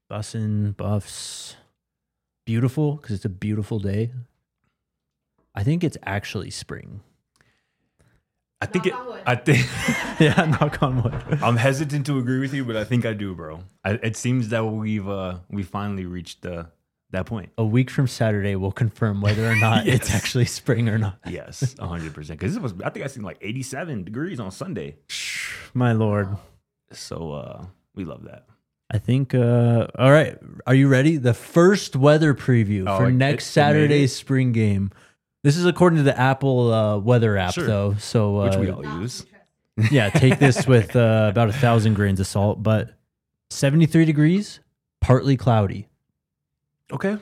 Bussin' Buffs. Beautiful because it's a beautiful day. I think it's actually spring. I think Yeah, knock on wood. I'm hesitant to agree with you, but I think I do, bro. It seems that we finally reached that point. A week from Saturday, we'll confirm whether or not it's actually spring or not. Yes, 100%. Because I think I seen like 87 degrees on Sunday. My Lord. So we love that. I think, all right. Are you ready? The first weather preview for next Saturday's spring game. This is according to the Apple weather app, though. So, which we all use. Yeah, take this with about 1,000 grains of salt. But 73 degrees, partly cloudy. Okay.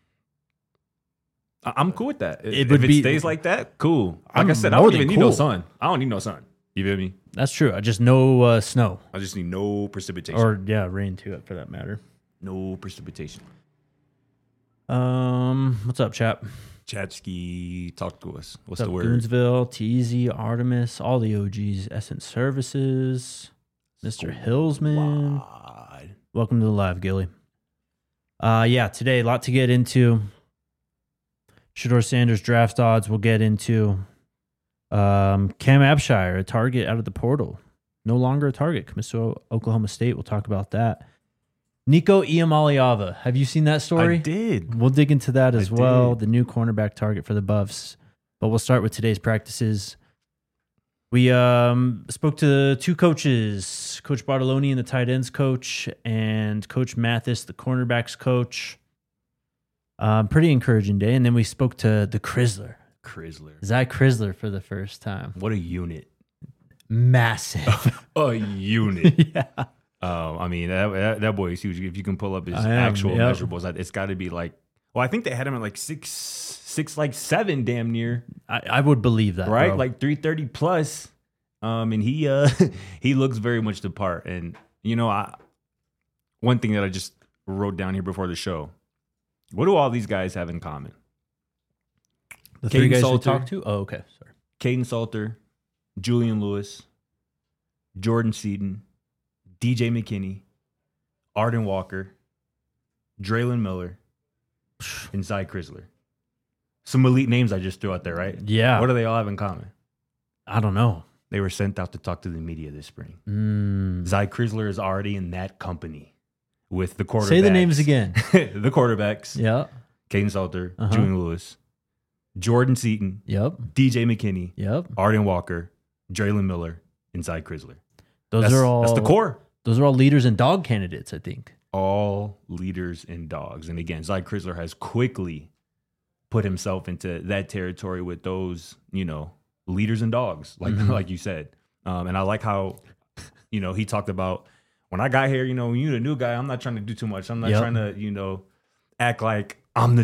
I'm cool with that. If it stays like that, cool. Like I said, I don't even need no sun. I don't need no sun. You feel me? That's true. I just no snow. I just need no precipitation. Or, rain too, for that matter. No precipitation. What's up, chap? Chatsky, talk to us. What's the word? Goonsville, TZ, Artemis, all the OGs, Essence Services, Mr. Hillsman. Welcome to the live, Gilly. Today, a lot to get into. Shedeur Sanders draft odds we'll get into. Cam Abshire, a target out of the portal. No longer a target. Commits to Oklahoma State. We'll talk about that. Nico Iamaleava. Have you seen that story? I did. We'll dig into that as well. The new cornerback target for the Buffs. But we'll start with today's practices. We spoke to two coaches, Coach Bartoloni, the tight ends coach, and Coach Mathis, the cornerbacks coach. Pretty encouraging day. And then we spoke to the Crisler. Zach Crisler for the first time. What a unit. Massive. A unit. Yeah. I mean, that boy is huge. If you can pull up his actual measurables, it's got to be like, well, I think they had him at like 6'7", damn near. I would believe that, right? Bro. Like 330 plus. And he he looks very much the part. And one thing that I just wrote down here before the show. What do all these guys have in common? The three guys we talked to? Oh, okay. Sorry. Caden Salter, Julian Lewis, Jordan Seaton, DJ McKinney, Arden Walker, Draylon Miller, and Zy Crisler. Some elite names I just threw out there, right? Yeah. What do they all have in common? I don't know. They were sent out to talk to the media this spring. Zy Crisler is already in that company with the quarterbacks. Say the names again. The quarterbacks. Yeah. Caden Salter, Julian Lewis, Jordan Seaton, DJ McKinney, Arden Walker, Draylon Miller, and Zy Crisler. That's the core. Those are all leaders and dog candidates, I think. All leaders and dogs. And again, Zy Crisler has quickly put himself into that territory with those, leaders and dogs, like you said. And I like how, he talked about when I got here, when you're the new guy, I'm not trying to do too much. I'm not trying to, act like I'm the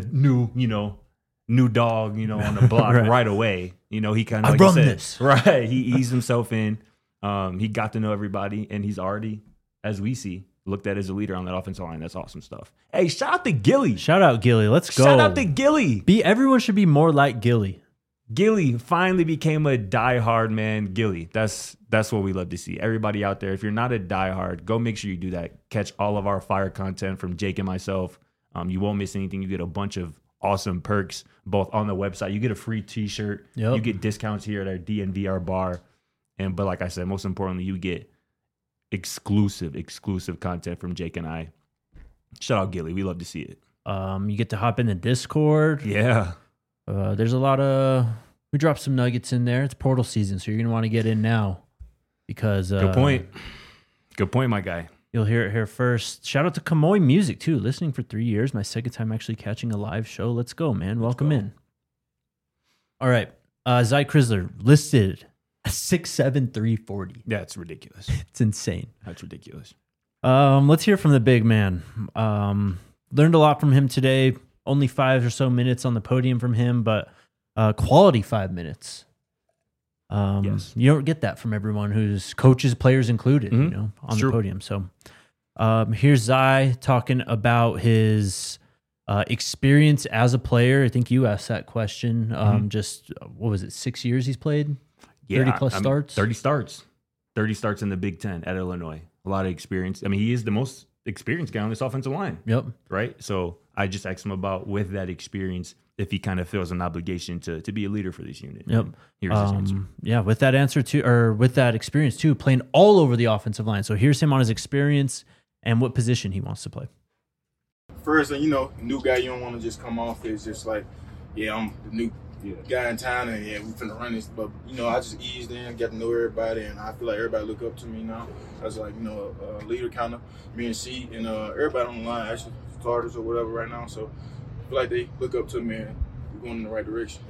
new dog, on the block right away. He kind of, like this. Right. He eased himself in. He got to know everybody, and he's already, as we see, looked at as a leader on that offensive line. That's awesome stuff. Hey, shout out to Gilly. Shout out Gilly. Let's go. Shout out to Gilly. Everyone should be more like Gilly. Gilly finally became a diehard man. Gilly. That's what we love to see. Everybody out there, if you're not a diehard, go make sure you do that. Catch all of our fire content from Jake and myself. You won't miss anything. You get a bunch of awesome perks, both on the website. You get a free t-shirt. You get discounts here at our DNVR bar. But like I said, most importantly, you get exclusive content from Jake and I. Shout out Gilly. We love to see it. You get to hop in the Discord. Yeah. There's a lot we dropped some nuggets in there. It's portal season, so you're going to want to get in now because... Good point, my guy. You'll hear it here first. Shout out to Kamoy Music, too. Listening for 3 years. My second time actually catching a live show. Let's go, man. Welcome in. All right. Zy Crisler listed 6'7", 340. Yeah, it's ridiculous. It's insane. That's ridiculous. Let's hear from the big man. Learned a lot from him today. Only 5 or so minutes on the podium from him, but quality 5 minutes. Yes. You don't get that from everyone who's coaches, players included, on the podium. So here's Zy talking about his experience as a player. I think you asked that question. Just, what was it, 6 years he's played? 30 plus starts? 30 starts. 30 starts in the Big Ten at Illinois. A lot of experience. I mean, he is the most experienced guy on this offensive line. Yep. Right. So I just asked him about, with that experience, if he kind of feels an obligation to be a leader for this unit. Yep. And here's his answer. Yeah, with that answer too, or with that experience too, playing all over the offensive line. So here's him on his experience and what position he wants to play. First, new guy, you don't want to just come off as just like, yeah, I'm the new guy in town, and yeah, we finna run this. But I just eased in, get to know everybody, and I feel like everybody look up to me now. As like a leader, kind of me and C, and everybody on the line, actually starters or whatever right now. So I feel like they look up to me, and we're going in the right direction.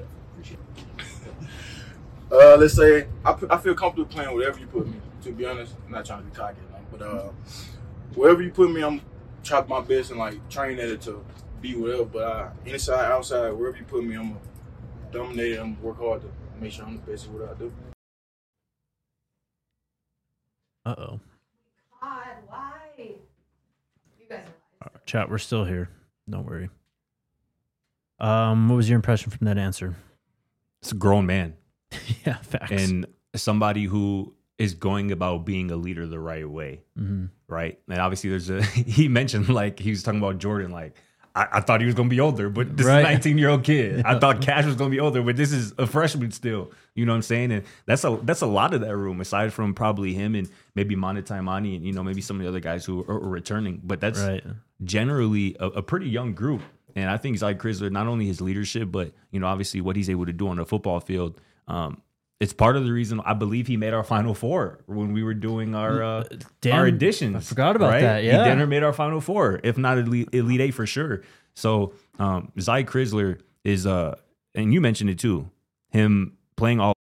Let's say I feel comfortable playing whatever you put me. To be honest, I'm not trying to be cocky, but wherever you put me, I'm trying my best and like train at it to be whatever. But inside, outside, wherever you put me, I'm gonna dominate it. I'm gonna work hard to make sure I'm the best at what I do. Uh-oh. God, why? You guys are lies. Chat, we're still here. Don't worry. What was your impression from that answer? It's a grown man. Yeah, facts. And somebody who is going about being a leader the right way. Mm-hmm. Right. And obviously he mentioned, like, he was talking about Jordan, like, I thought he was going to be older, but this is a 19-year-old kid. I thought Cash was going to be older, but this is a freshman still. You know what I'm saying? And that's a lot of that room, aside from probably him and maybe Mana Taimani and, maybe some of the other guys who are returning. But that's generally a pretty young group. And I think Zy Crisler, not only his leadership, but, obviously what he's able to do on the football field, it's part of the reason I believe he made our Final Four when we were doing our additions. I forgot about that. Yeah, he dinner made our Final Four, if not Elite Eight for sure. So Zy Crisler is, and you mentioned it too, him playing all.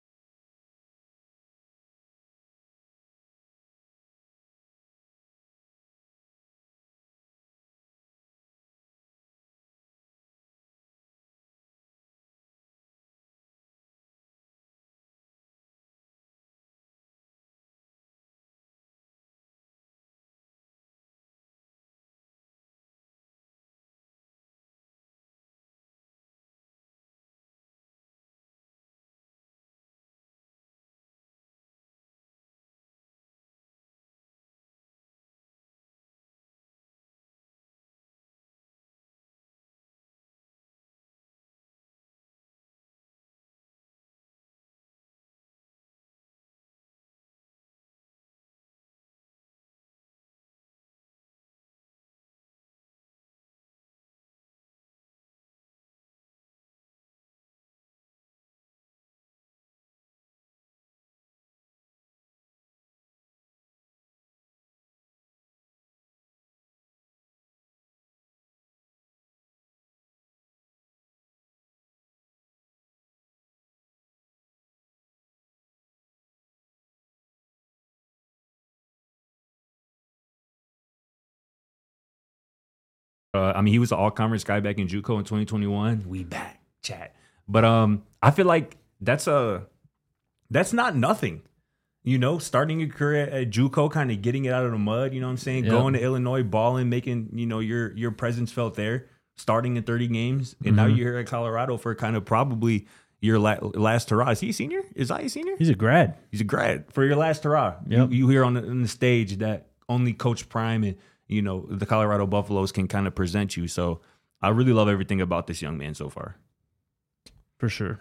He was an all-conference guy back in JUCO in 2021. We back, chat. But I feel like that's not nothing. Starting your career at JUCO, kind of getting it out of the mud. You know what I'm saying? Yep. Going to Illinois, balling, making your presence felt there. Starting in 30 games, and now you're here at Colorado for kind of probably your last hurrah. Is he a senior? Is I a senior? He's a grad. He's a grad for your last hurrah. Yep. You here on the stage that only Coach Prime and the Colorado Buffaloes can kind of present you. So I really love everything about this young man so far. For sure.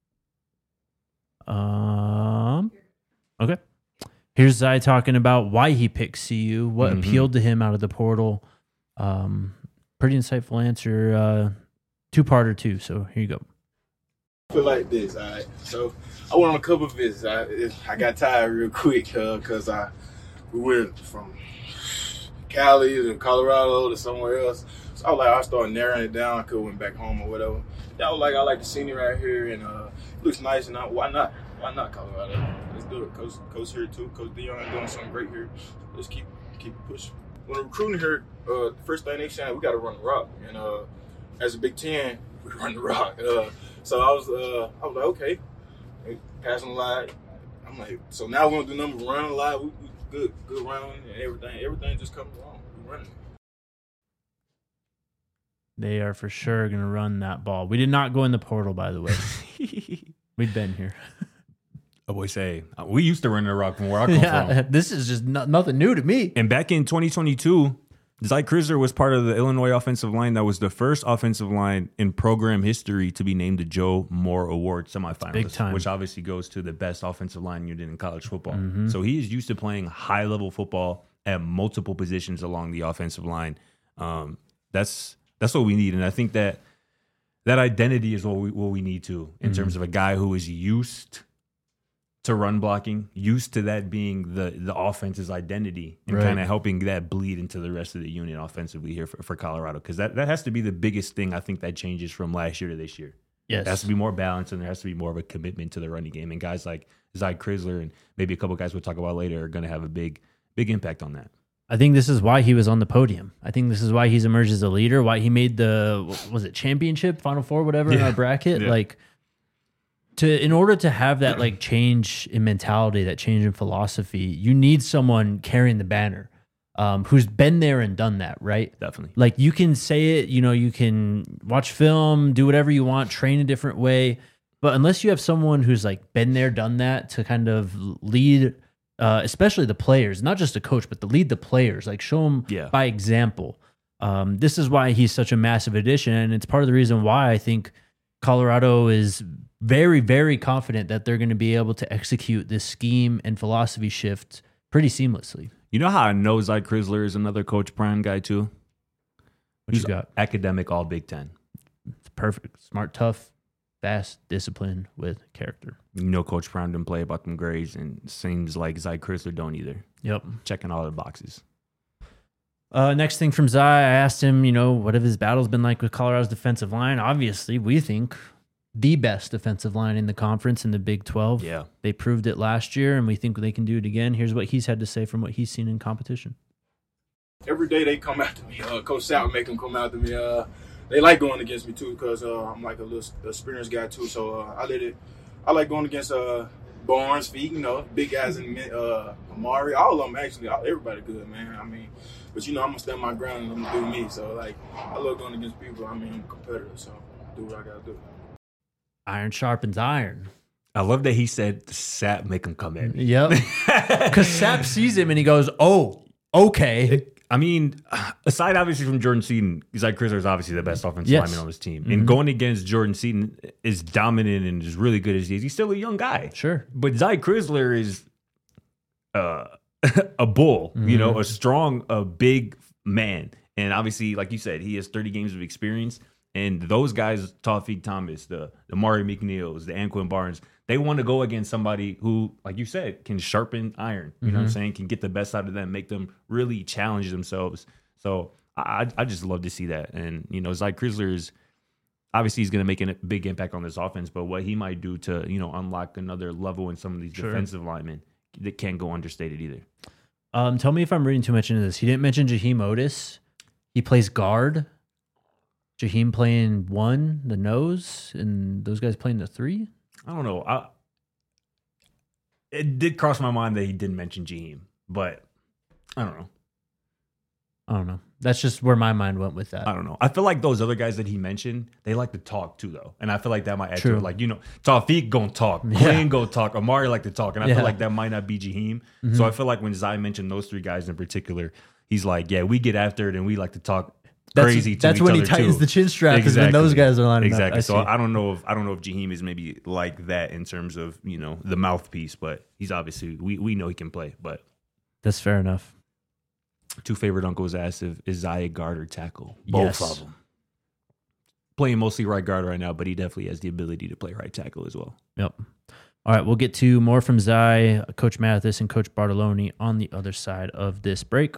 Okay. Here's Zy talking about why he picked CU, what appealed to him out of the portal. Pretty insightful answer. Two-parter too. So here you go. I feel like this. All right. So I went on a couple of visits. I got tired real quick because we went from Cali to Colorado to somewhere else. So I was like, I started narrowing it down. I could have went back home or whatever. Yeah, I like the scenery right here, and it looks nice. And why not? Why not Colorado? Let's do it. Coach here too. Coach Dion is doing something great here. Let's keep pushing. When recruiting here, the first thing they said, we got to run the rock. And as a Big Ten, we run the rock. So I was like, okay, passing the line. I'm like, so now we're gonna do number run a lot. We good round and everything. Everything just coming along. We running. They are for sure gonna run that ball. We did not go in the portal, by the way. We've been here. I always say we used to run the rock from where I come from. This is just nothing new to me. And back in 2022, Zy Crisler was part of the Illinois offensive line that was the first offensive line in program history to be named the Joe Moore Award semifinalist, big time. which obviously goes to the best offensive line unit in college football. Mm-hmm. So he is used to playing high-level football at multiple positions along the offensive line. That's what we need, and I think that identity is what we need to in terms of a guy who is used to run blocking, used to that being the offense's identity, and kind of helping that bleed into the rest of the unit offensively here for Colorado. Because that has to be the biggest thing I think that changes from last year to this year. Yes. There has to be more balance, and there has to be more of a commitment to the running game. And guys like Zy Crisler and maybe a couple guys we'll talk about later are going to have a big impact on that. I think this is why he was on the podium. I think this is why he's emerged as a leader, why he made championship, Final Four, whatever, in our bracket. Yeah. In order to have that change in mentality, that change in philosophy, you need someone carrying the banner, who's been there and done that, right? Definitely. You can say it, you can watch film, do whatever you want, train a different way, but unless you have someone who's been there, done that to kind of lead, especially the players, not just a coach, but to lead the players, show them by example. This is why he's such a massive addition, and it's part of the reason why I think Colorado is very, very confident that they're going to be able to execute this scheme and philosophy shift pretty seamlessly. You know how I know Zy Crisler is another Coach Prime guy too? What you got? Academic all Big Ten. It's perfect. Smart, tough, fast, disciplined with character. Coach Prime didn't play about them grades, and seems like Zy Crisler don't either. Yep. Checking all the boxes. Next thing from Zy, I asked him, what have his battles been like with Colorado's defensive line? Obviously, we think the best defensive line in the conference in the Big 12. Yeah. They proved it last year, and we think they can do it again. Here's what he's had to say from what he's seen in competition. Every day they come after me. Coach Sal make them come after me. They like going against me, too, because I'm a little experienced guy, too. So I like going against Barnes, Feet, big guys in Amari. All of them, actually. Everybody good, man. But, I'm going to stand my ground and I'm going to do me. So, I love going against people. I'm a competitor, so do what I got to do. Iron sharpens iron. I love that he said Sap make him come in. Yep. Because Sap sees him and he goes, oh, okay. Aside obviously from Jordan Seaton, Zy Crisler is obviously the best offensive lineman on his team. Mm-hmm. And going against Jordan Seaton is dominant and is really good as he is. He's still a young guy. Sure. But Zy Crisler is a bull, a strong, a big man. And obviously, like you said, he has 30 games of experience. And those guys, Tawfiq Thomas, the Mari McNeils, the Anquin Barnes, they want to go against somebody who, like you said, can sharpen iron. You know what I'm saying? Can get the best out of them, make them really challenge themselves. So I just love to see that. And, Zy Crisler is obviously he's going to make a big impact on this offense, but what he might do to, unlock another level in some of these defensive linemen that can't go understated either. Tell me if I'm reading too much into this. He didn't mention Jaheim Otis. He plays guard. Jaheim playing 1, the nose, and those guys playing the 3? I don't know. It did cross my mind that he didn't mention Jaheim, but I don't know. That's just where my mind went with that. I don't know. I feel like those other guys that he mentioned, they like to talk too, though. And I feel like that might add True. to it. Tawfiq gonna talk. Quinn go talk. Amari like to talk. And I feel like that might not be Jaheim. Mm-hmm. So I feel like when Zy mentioned those 3 guys in particular, he's like, yeah, we get after it and we like to talk crazy to That's each when other he tightens too. the chin strap is when those guys are lining up. So I I don't know if Jaheim is maybe like that in terms of, the mouthpiece, but he's obviously we know he can play, but that's fair enough. 2 favorite uncles asked if is Zy a guard or tackle. Both of them. Playing mostly right guard right now, but he definitely has the ability to play right tackle as well. Yep. All right, we'll get to more from Zy, Coach Mathis, and Coach Bartoloni on the other side of this break.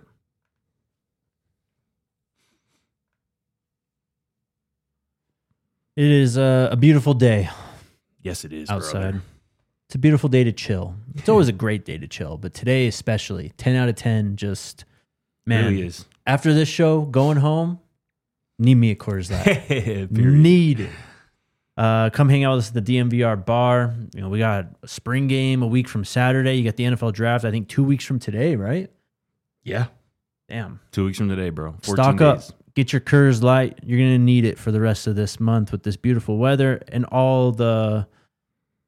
It is a beautiful day. Yes, it is. Outside. Brother. It's a beautiful day to chill. It's always a great day to chill, but today especially, 10 out of 10, just, man. It really is. After this show, going home, need me a Coors Light. Period. Need it. Come hang out with us at the DMVR bar. We got a spring game a week from Saturday. You got the NFL draft, I think 2 weeks from today, right? Yeah. Damn. 2 weeks from today, bro. 14 Stock days. up. Get your Coors Light. You're going to need it for the rest of this month with this beautiful weather and all the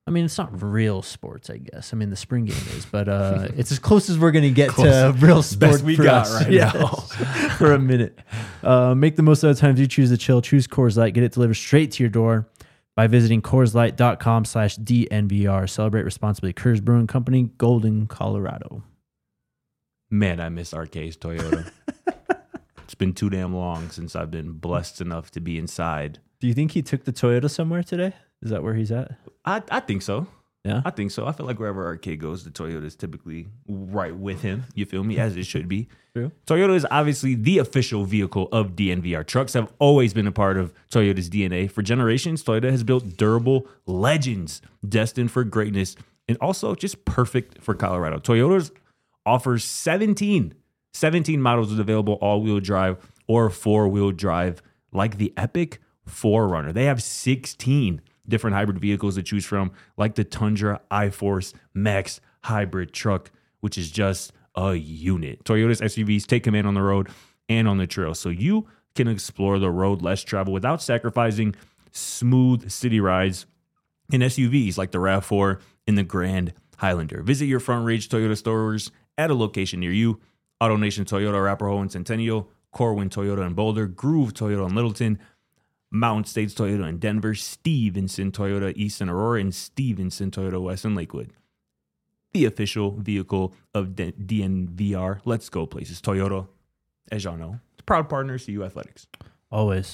I mean, it's not real sports, I guess. I mean, the spring game is, but it's as close as we're going to get to real sports. Best we for got us. right Yes. now. For a minute. Make the most of the times you choose to chill. Choose Coors Light. Get it delivered straight to your door by visiting CoorsLight.com/DNVR. Celebrate responsibly. Coors Brewing Company, Golden, Colorado. Man, I miss Arcades Toyota. It's been too damn long since I've been blessed enough to be inside. Do you think he took the Toyota somewhere today? Is that where he's at? I think so. Yeah. I think so. I feel like wherever Arcade goes, the Toyota is typically right with him. You feel me? As it should be. True. Toyota is obviously the official vehicle of DNVR. Trucks have always been a part of Toyota's DNA. For generations, Toyota has built durable legends destined for greatness and also just perfect for Colorado. Toyota's offers 17 models with available all-wheel drive or four-wheel drive, like the epic 4Runner. They have 16 different hybrid vehicles to choose from, like the Tundra iForce Max hybrid truck, which is just a unit. Toyota's SUVs take command on the road and on the trail, so you can explore the road less travel without sacrificing smooth city rides in SUVs like the RAV4 and the Grand Highlander. Visit your Front Range Toyota stores at a location near you. AutoNation Toyota, Arapahoe and Centennial, Corwin Toyota in Boulder, Groove Toyota in Littleton, Mountain States Toyota in Denver, Stevenson Toyota East in Aurora, and Stevenson Toyota West in Lakewood. The official vehicle of DNVR. Let's go places. Toyota, as y'all know, proud partner of CU Athletics. Always.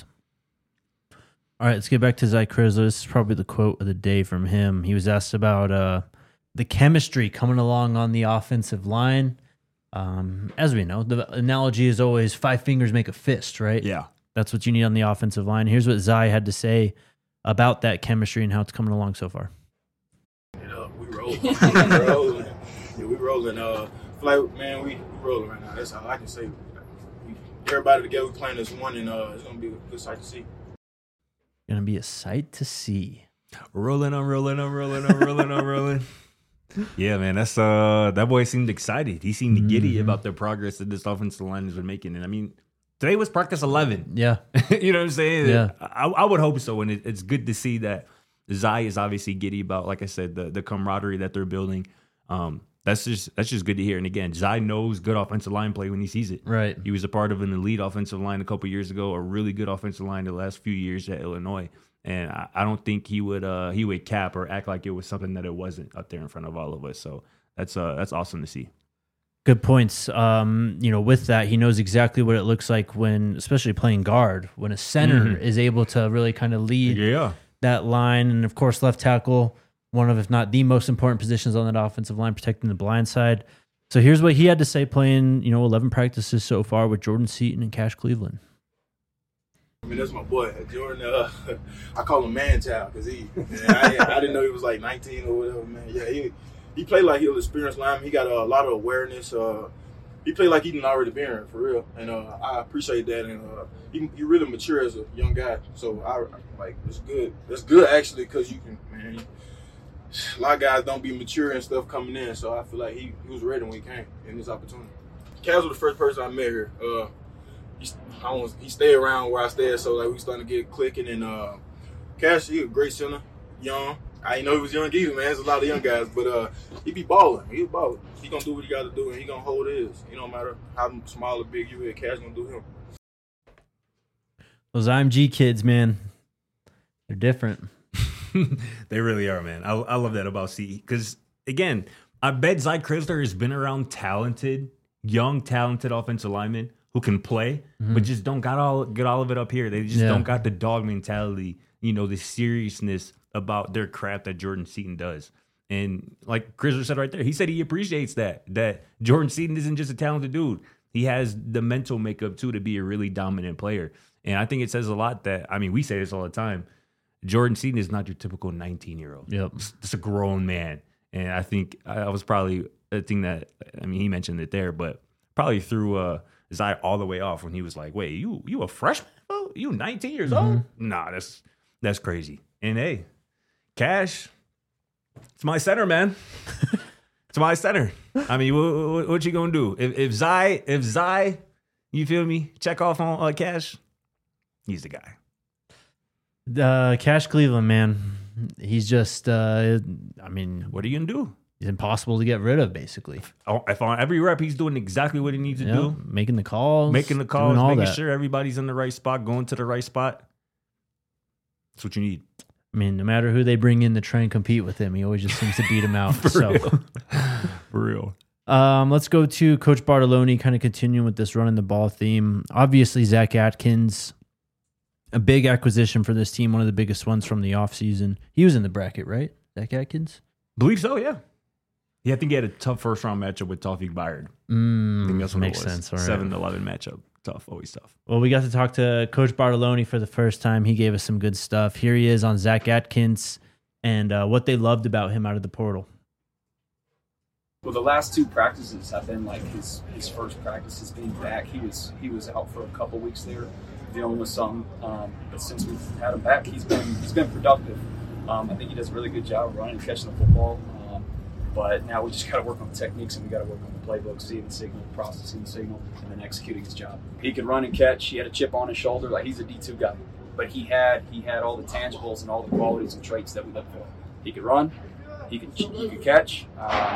All right, let's get back to Zy Crisler. This is probably the quote of the day from him. He was asked about the chemistry coming along on the offensive line. As we know, the analogy is always 5 fingers make a fist, right? Yeah. That's what you need on the offensive line. Here's what Zy had to say about that chemistry and how it's coming along so far. We rolling. We rolling. Yeah, we rolling. Like, man, we rolling right now. That's all I can say. Everybody together, we playing this one, and it's going to be a good sight to see. Going to be a sight to see. Rolling. Yeah, man, that's that boy seemed excited. He seemed giddy about the progress that this offensive line has been making. And I mean, today was practice 11. Yeah. You know what I'm saying? Yeah. I would hope so. And it's good to see that Zy is obviously giddy about, like I said, the camaraderie that they're building. That's just good to hear. And again, Zy knows good offensive line play when he sees it. Right. He was a part of an elite offensive line a couple years ago, a really good offensive line the last few years at Illinois. And I don't think he would cap or act like it was something that it wasn't up there in front of all of us. So that's awesome to see. Good points. With that, he knows exactly what it looks like when, especially playing guard, when a center is able to really kind of lead that line. And of course, left tackle, one of, if not the most important positions on that offensive line, protecting the blind side. So here's what he had to say playing, 11 practices so far with Jordan Seaton and Cash Cleveland. I mean, that's my boy, Jordan. I call him man child because I didn't know he was like 19 or whatever, man. Yeah, he played like he was an experienced lineman. He got a lot of awareness. He played like he didn't already been here, for real. And I appreciate that. And he really mature as a young guy. So it's good. It's good actually because you can, man. A lot of guys don't be mature and stuff coming in. So I feel like he was ready when he came in this opportunity. Kaz was the first person I met here. He stayed around where I stayed, so like we starting to get clicking. And Cash, he a great center, young. I didn't know he was young either, man. There's a lot of young guys, but he be balling. He balling. He gonna do what he got to do, and he gonna hold his. It don't matter how small or big you is. Cash gonna do him. Those IMG kids, man, they're different. They really are, man. I love that about CE because again, I bet Zy Crisler has been around young, talented offensive linemen who can play, but just don't get all of it up here. They just don't got the dog mentality, the seriousness about their craft that Jordan Seaton does. And like Crisler said right there, he said he appreciates that Jordan Seaton isn't just a talented dude. He has the mental makeup too to be a really dominant player. And I think it says a lot that, I mean, we say this all the time, Jordan Seaton is not your typical 19-year-old. Yep. It's a grown man. And I think I was probably a thing that, I mean, he mentioned it there, but probably threw Zy all the way off when he was like, wait, you a freshman? Oh, you 19 years old? Nah, that's crazy. And hey, Cash, it's my center, man. It's my center. I mean, what you gonna do? If Zy, you feel me, check off on Cash, he's the guy. Cash Cleveland, man. he's just, I mean, What are you gonna do? he's impossible to get rid of, basically. If on every rep he's doing exactly what he needs to do, Making the calls, making the doing calls, all making that. sure everybody's in the right spot, going to the right spot. That's what you need. I mean, no matter who they bring in to try and compete with him, he always just seems to beat him out. For real. Let's go to Coach Bartoloni, kind of continuing with this running the ball theme. Obviously, Zach Atkins, a big acquisition for this team, one of the biggest ones from the offseason. He was in the bracket, right? Zach Atkins? Believe so, yeah. Yeah, I think he had a tough first round matchup with Tawfiq Bayard. I think that's what Makes it was. sense. All right. 7-11 matchup. Tough, always tough. Well, we got to talk to Coach Bartoloni for the first time. He gave us some good stuff. Here he is on Zach Atkins and what they loved about him out of the portal. Well, the last 2 practices have been like his first practices being back. He was out for a couple weeks there, dealing with something. But since we've had him back, he's been productive. I think he does a really good job of running and catching the football. But now we just got to work on the techniques and we got to work on the playbook, seeing the signal, processing the signal, and then executing his job. He could run and catch. He had a chip on his shoulder. Like, he's a D2 guy. But he had all the tangibles and all the qualities and traits that we look for. He could run. He could catch.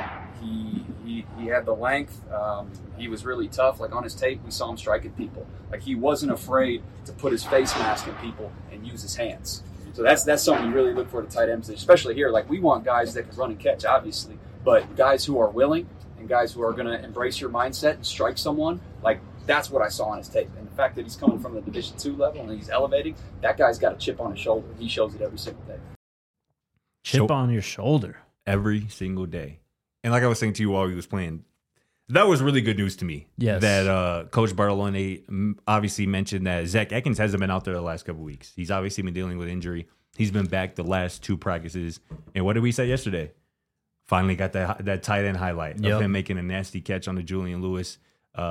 He had the length. He was really tough. Like, on his tape, we saw him striking people. Like, he wasn't afraid to put his face mask in people and use his hands. So that's something you really look for at the tight end position, especially here. Like, we want guys that can run and catch, obviously, but guys who are willing and guys who are going to embrace your mindset and strike someone, like, that's what I saw on his tape. And the fact that he's coming from the Division II level and he's elevating, that guy's got a chip on his shoulder. He shows it every single day. Chip on your shoulder. Every single day. And like I was saying to you while he was playing, that was really good news to me. Yes. That Coach Bartoloni obviously mentioned that Zach Atkins hasn't been out there the last couple of weeks. He's obviously been dealing with injury. He's been back the last 2 practices. And what did we say yesterday? Finally got that tight end highlight of him making a nasty catch on the Julian Lewis,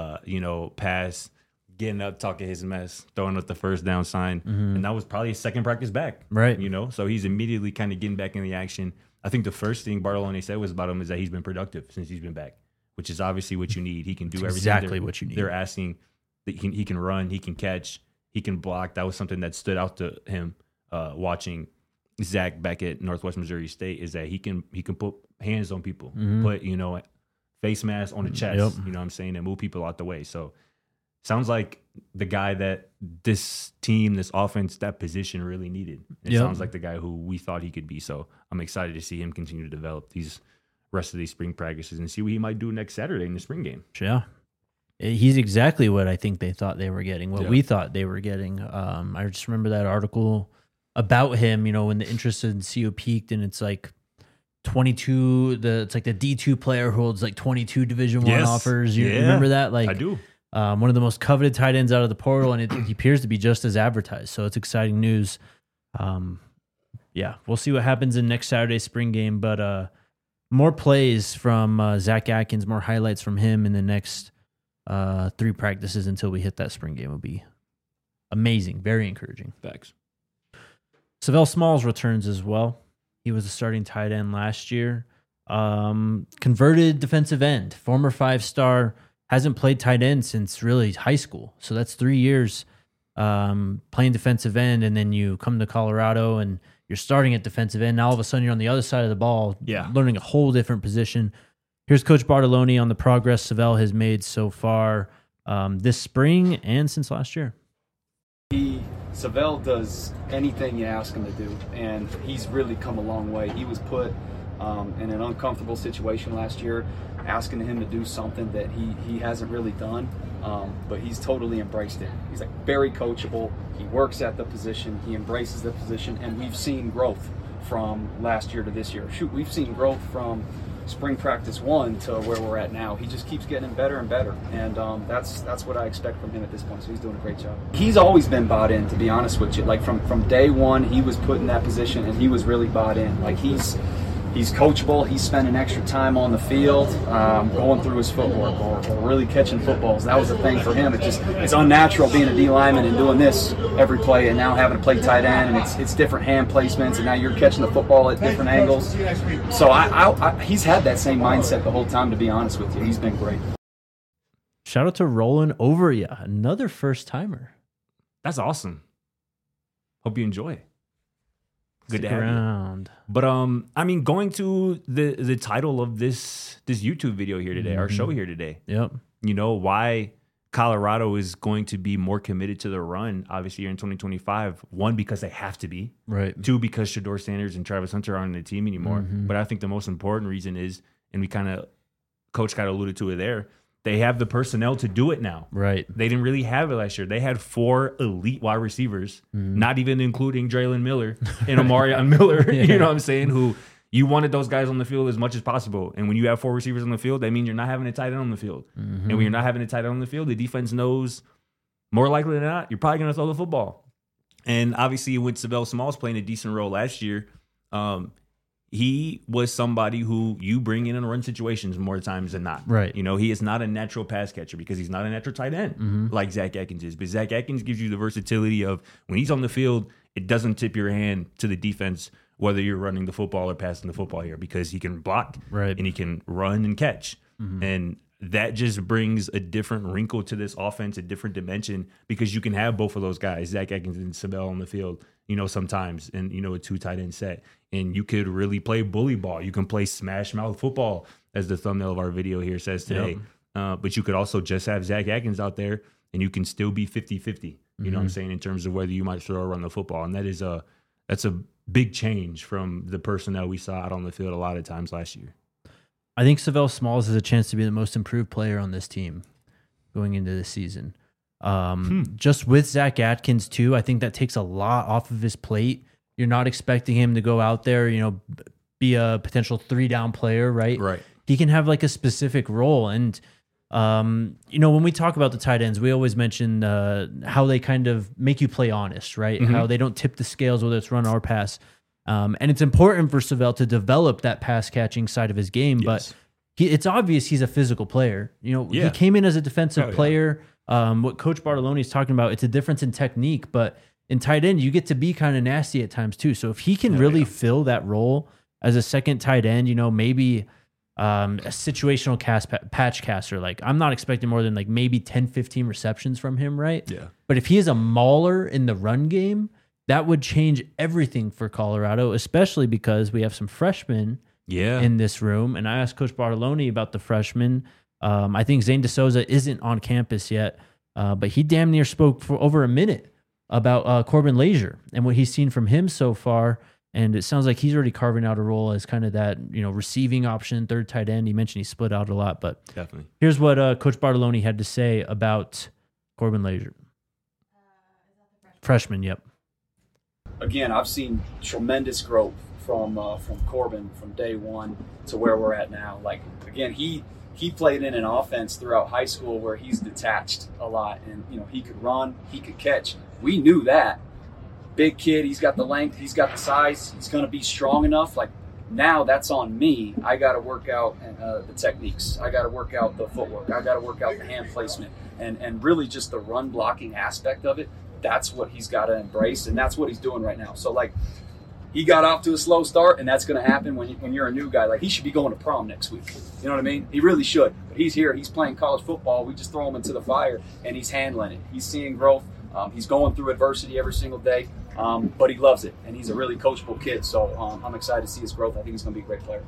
pass, getting up, talking his mess, throwing up the first down sign. And that was probably his second practice back. Right. So he's immediately kind of getting back in the action. I think the first thing Bartoloni said was about him is that he's been productive since he's been back, which is obviously what you need. He can do everything. Exactly what you need. They're asking that he can run, he can catch, he can block. That was something that stood out to him watching Zach back at Northwest Missouri State, is that he can put hands on people, put face mask on the chest, you know what I'm saying, and move people out the way. So sounds like the guy that this team, this offense, that position really needed. It sounds like the guy who we thought he could be. So I'm excited to see him continue to develop these rest of these spring practices and see what he might do next Saturday in the spring game. Yeah. He's exactly what I think they thought they were getting, what we thought they were getting. I just remember that article about him, when the interest in CO peaked, and it's like 22, it's like the D2 player holds like 22 Division I offers. You remember that? Like, I do. One of the most coveted tight ends out of the portal, and he appears to be just as advertised. So it's exciting news. We'll see what happens in next Saturday's spring game, but more plays from Zach Atkins, more highlights from him in the next 3 practices until we hit that spring game will be amazing, very encouraging. Facts. Savell Smalls returns as well. He was a starting tight end last year. Converted defensive end, former 5-star, hasn't played tight end since really high school. So that's 3 years playing defensive end, and then you come to Colorado and you're starting at defensive end. Now all of a sudden you're on the other side of the ball, learning a whole different position. Here's Coach Bartoloni on the progress Savell has made so far this spring and since last year. Savell does anything you ask him to do, and he's really come a long way. He was put in an uncomfortable situation last year, asking him to do something that he hasn't really done, but he's totally embraced it. He's like very coachable. He works at the position. He embraces the position, and we've seen growth from last year to this year. We've seen growth from spring practice 1 to where we're at now. He just keeps getting better and better, and that's what I expect from him at this point. So he's doing a great job. He's always been bought in, to be honest with you. Like from day one, he was put in that position, and he was really bought in. Like he's coachable. He's spending extra time on the field, going through his footwork or really catching footballs. That was the thing for him. It's unnatural being a D lineman and doing this every play, and now having to play tight end, and it's different hand placements, and now you're catching the football at different angles. So he's had that same mindset the whole time, to be honest with you. He's been great. Shout out to Roland Overia, another first timer. That's awesome. Hope you enjoy it. Good Stick to have you. around. But I mean, going to the title of this YouTube video here today, our show here today. Yep. You know why Colorado is going to be more committed to the run, obviously, here in 2025. One, because they have to be. Right. Two, because Shador Sanders and Travis Hunter aren't on the team anymore. But I think the most important reason is, and Coach kind of alluded to it there, they have the personnel to do it now. Right. They didn't really have it last year. They had 4 elite wide receivers, not even including Draylen Miller and Omarion Miller, you know what I'm saying, who you wanted those guys on the field as much as possible. And when you have 4 receivers on the field, that means you're not having a tight end on the field. And when you're not having a tight end on the field, the defense knows more likely than not, you're probably going to throw the football. And obviously, with Savell Smalls playing a decent role last year, he was somebody who you bring in run situations more times than not. Right. You know, he is not a natural pass catcher because he's not a natural tight end like Zach Atkins is. But Zach Atkins gives you the versatility of when he's on the field, it doesn't tip your hand to the defense whether you're running the football or passing the football here because he can block and he can run and catch. And that just brings a different wrinkle to this offense, a different dimension because you can have both of those guys, Zach Atkins and Savell on the field, you know, sometimes in, you know, a 2 tight end set. And you could really play bully ball. You can play smash mouth football, as the thumbnail of our video here says today. But you could also just have Zach Atkins out there and you can still be 50-50, you know what I'm saying, in terms of whether you might throw or run the football. And that's a big change from the personnel we saw out on the field a lot of times last year. I think Savell Smalls has a chance to be the most improved player on this team going into this season. Just with Zach Atkins too, I think that takes a lot off of his plate. You're not expecting him to go out there, you know, be a potential 3-down player, right? Right. He can have like a specific role. And, you know, when we talk about the tight ends, we always mention how they kind of make you play honest, right? How they don't tip the scales, whether it's run or pass. And it's important for Savell to develop that pass catching side of his game, but it's obvious he's a physical player. You know, he came in as a defensive player. What Coach Bartoloni is talking about, it's a difference in technique, but in tight end, you get to be kind of nasty at times too. So if he can really fill that role as a second tight end, you know, maybe a situational patch caster, like I'm not expecting more than like maybe 10, 15 receptions from him, right? Yeah. But if he is a mauler in the run game, that would change everything for Colorado, especially because we have some freshmen in this room. And I asked Coach Bartoloni about the freshmen. I think Zane DeSouza isn't on campus yet, but he damn near spoke for over a minute about Corbin Leisure and what he's seen from him so far. And it sounds like he's already carving out a role as kind of that, you know, receiving option, third tight end. He mentioned he split out a lot, but Definitely. Here's what Coach Bartoloni had to say about Corbin Leisure. Freshman, yep. Again, I've seen tremendous growth from Corbin from day one to where we're at now. Like, again, he played in an offense throughout high school where he's detached a lot, and you know he could run, he could catch. We knew that. Big kid, he's got the length, he's got the size, he's going to be strong enough. Like, now that's on me. I got to work out the techniques. I got to work out the footwork. I got to work out the hand placement, and really just the run blocking aspect of it. That's what he's got to embrace, and that's what he's doing right now. So, like, he got off to a slow start, and that's going to happen when you're a new guy. Like, he should be going to prom next week. You know what I mean? He really should. But he's here. He's playing college football. We just throw him into the fire, and he's handling it. He's seeing growth. He's going through adversity every single day, but he loves it, and he's a really coachable kid. So I'm excited to see his growth. I think he's going to be a great player.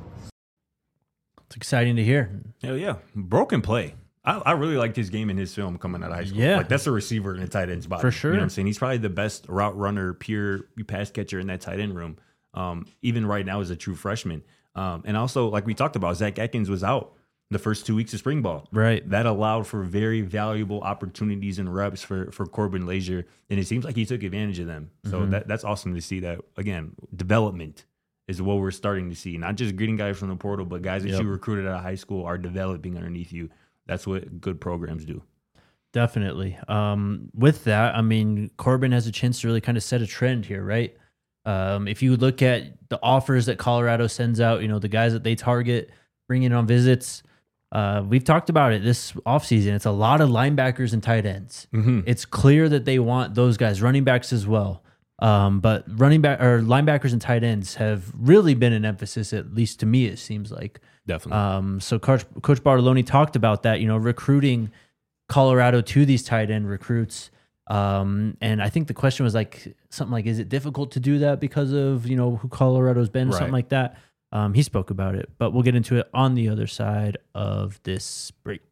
It's exciting to hear. Hell yeah. Broken play. I really liked his game in his film coming out of high school. Yeah. Like, that's a receiver in a tight end spot. For sure. You know what I'm saying? He's probably the best route runner, pure pass catcher in that tight end room. Even right now as a true freshman. And also, like we talked about, Zach Atkins was out the first 2 weeks of spring ball. Right. That allowed for very valuable opportunities and reps for Corbin Leisure. And it seems like he took advantage of them. So that's awesome to see that. Again, development is what we're starting to see. Not just getting guys from the portal, but guys that you recruited out of high school are developing underneath you. That's what good programs do. Definitely. With that, I mean, Corbin has a chance to really kind of set a trend here, right? If you look at the offers that Colorado sends out, you know, the guys that they target, bringing on visits, we've talked about it this offseason. It's a lot of linebackers and tight ends. It's clear that they want those guys, running backs as well. But running back or linebackers and tight ends have really been an emphasis, at least to me, it seems like. Definitely. So Coach Bartoloni talked about that, you know, recruiting Colorado to these tight end recruits. And I think the question was like something like, is it difficult to do that because of, who Colorado's been, or something like that. He spoke about it, but we'll get into it on the other side of this break.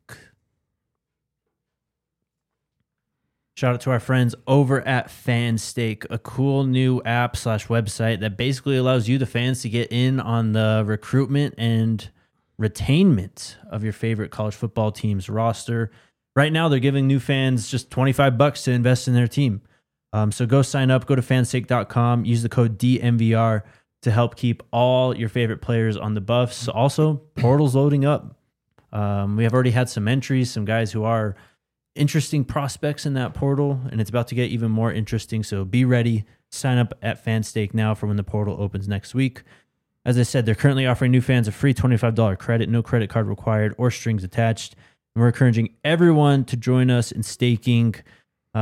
Shout out to our friends over at FanStake, a cool new app / website that basically allows you, the fans, to get in on the recruitment and retainment of your favorite college football team's roster. Right now, they're giving new fans just $25 to invest in their team. So go sign up, go to fanstake.com, use the code DMVR to help keep all your favorite players on the Buffs. Also, portal's loading up. We have already had some entries, some guys who are interesting prospects in that portal, and it's about to get even more interesting. So be ready. Sign up at FanStake now for when the portal opens next week. As I said, they're currently offering new fans a free $25 credit, no credit card required or strings attached. And we're encouraging everyone to join us in staking. Pick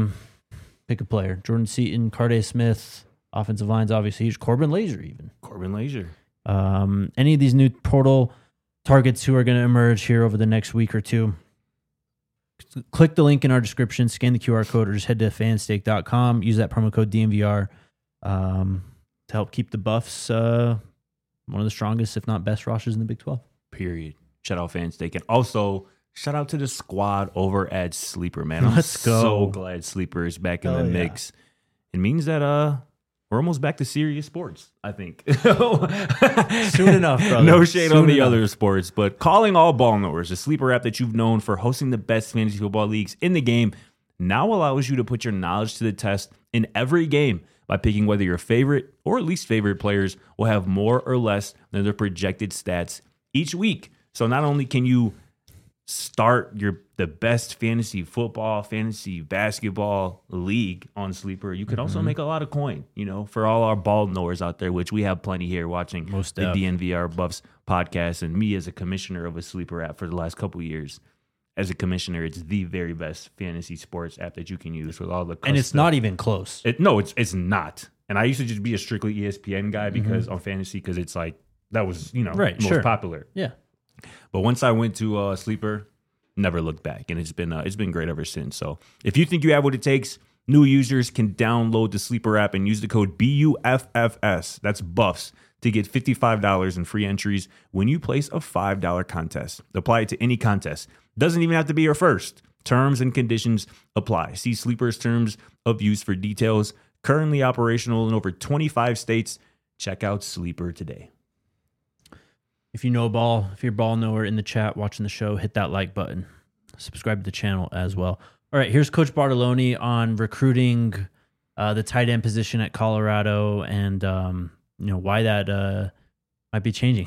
a player. Jordan Seaton, Carday Smith, offensive lines, obviously. Corbin Laser even. Corbin Laser. Any of these new portal targets who are going to emerge here over the next week or two. Click the link in our description, scan the QR code, or just head to fanstake.com. Use that promo code DMVR to help keep the Buffs one of the strongest, if not best, rosters in the Big 12. Period. Shout out FanStake. And also, shout out to the squad over at Sleeper, man. I'm Let's go. So glad Sleeper is back in the mix. It means that we're almost back to serious sports, I think. Soon enough, brother. No shade Soon on the enough. other sports, but calling all ball knowers, the Sleeper app that you've known for hosting the best fantasy football leagues in the game, now allows you to put your knowledge to the test in every game by picking whether your favorite or least favorite players will have more or less than their projected stats each week. So not only can you start the best fantasy football, fantasy basketball league on Sleeper, you could also make a lot of coin, for all our ball knowers out there, which we have plenty here watching the DNVR Buffs podcast, and me as a commissioner of a Sleeper app for the last couple of years. As a commissioner, it's the very best fantasy sports app that you can use with all the custom. And it's not even close. It's not. And I used to just be a strictly ESPN guy because on fantasy, because it's like that was most popular. Yeah. But once I went to Sleeper, never looked back, and it's been great ever since. So if you think you have what it takes, new users can download the Sleeper app and use the code BUFFS. That's Buffs to get $55 in free entries when you place a $5 contest. Apply it to any contest. Doesn't even have to be your first. Terms and conditions apply. See Sleeper's terms of use for details. Currently operational in over 25 states. Check out Sleeper today. If you know ball, if you're a ball knower in the chat watching the show, hit that like button. Subscribe to the channel as well. All right, here's Coach Bartoloni on recruiting the tight end position at Colorado, and why that might be changing.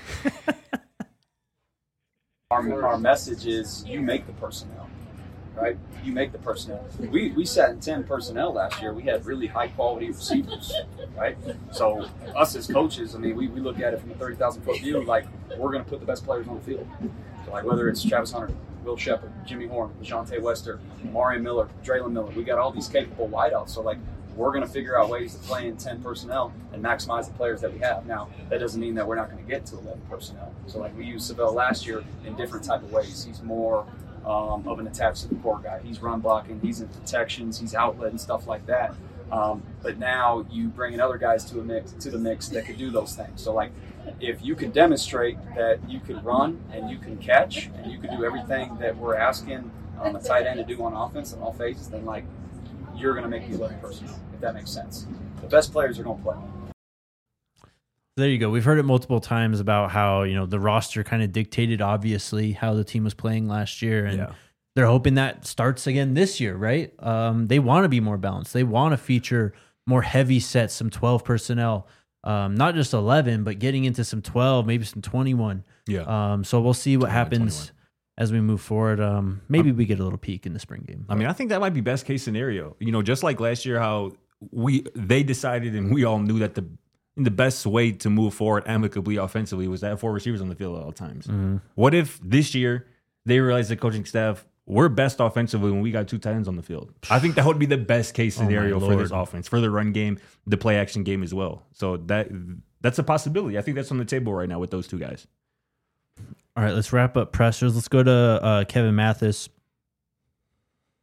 Our message is you make the personnel, right? You make the personnel. We sat in 10 personnel last year. We had really high quality receivers, right? So us as coaches, we look at it from a 30,000-foot view, like we're going to put the best players on the field. So like whether it's Travis Hunter, Will Shepard, Jimmy Horn, LeJontay Wester, Mario Miller, Draylon Miller, we got all these capable wideouts. So like we're going to figure out ways to play in 10 personnel and maximize the players that we have. Now, that doesn't mean that we're not going to get to 11 personnel. So like we used Savell last year in different type of ways. He's more of an attached to the core guy. He's run blocking, he's in protections, he's outlet and stuff like that. But now you bring in other guys to the mix that could do those things. So like if you can demonstrate that you can run and you can catch and you can do everything that we're asking a tight end to do on offense in all phases, then like you're going to make the 11 personnel, if that makes sense. The best players are going to play. There you go. We've heard it multiple times about how, the roster kind of dictated, obviously, how the team was playing last year. And they're hoping that starts again this year, right? They want to be more balanced. They want to feature more heavy sets, some 12 personnel, not just 11, but getting into some 12, maybe some 21. Yeah. So we'll see what happens as we move forward. Maybe we get a little peek in the spring game. I think that might be best case scenario. Just like last year, how they decided and we all knew that the best way to move forward amicably offensively was to have 4 receivers on the field at all times. Mm-hmm. What if this year they realized the coaching staff, we're best offensively when we got 2 tight ends on the field? I think that would be the best case scenario for this offense, for the run game, the play action game as well. So that's a possibility. I think that's on the table right now with those 2 guys. All right, let's wrap up pressers. Let's go to Kevin Mathis.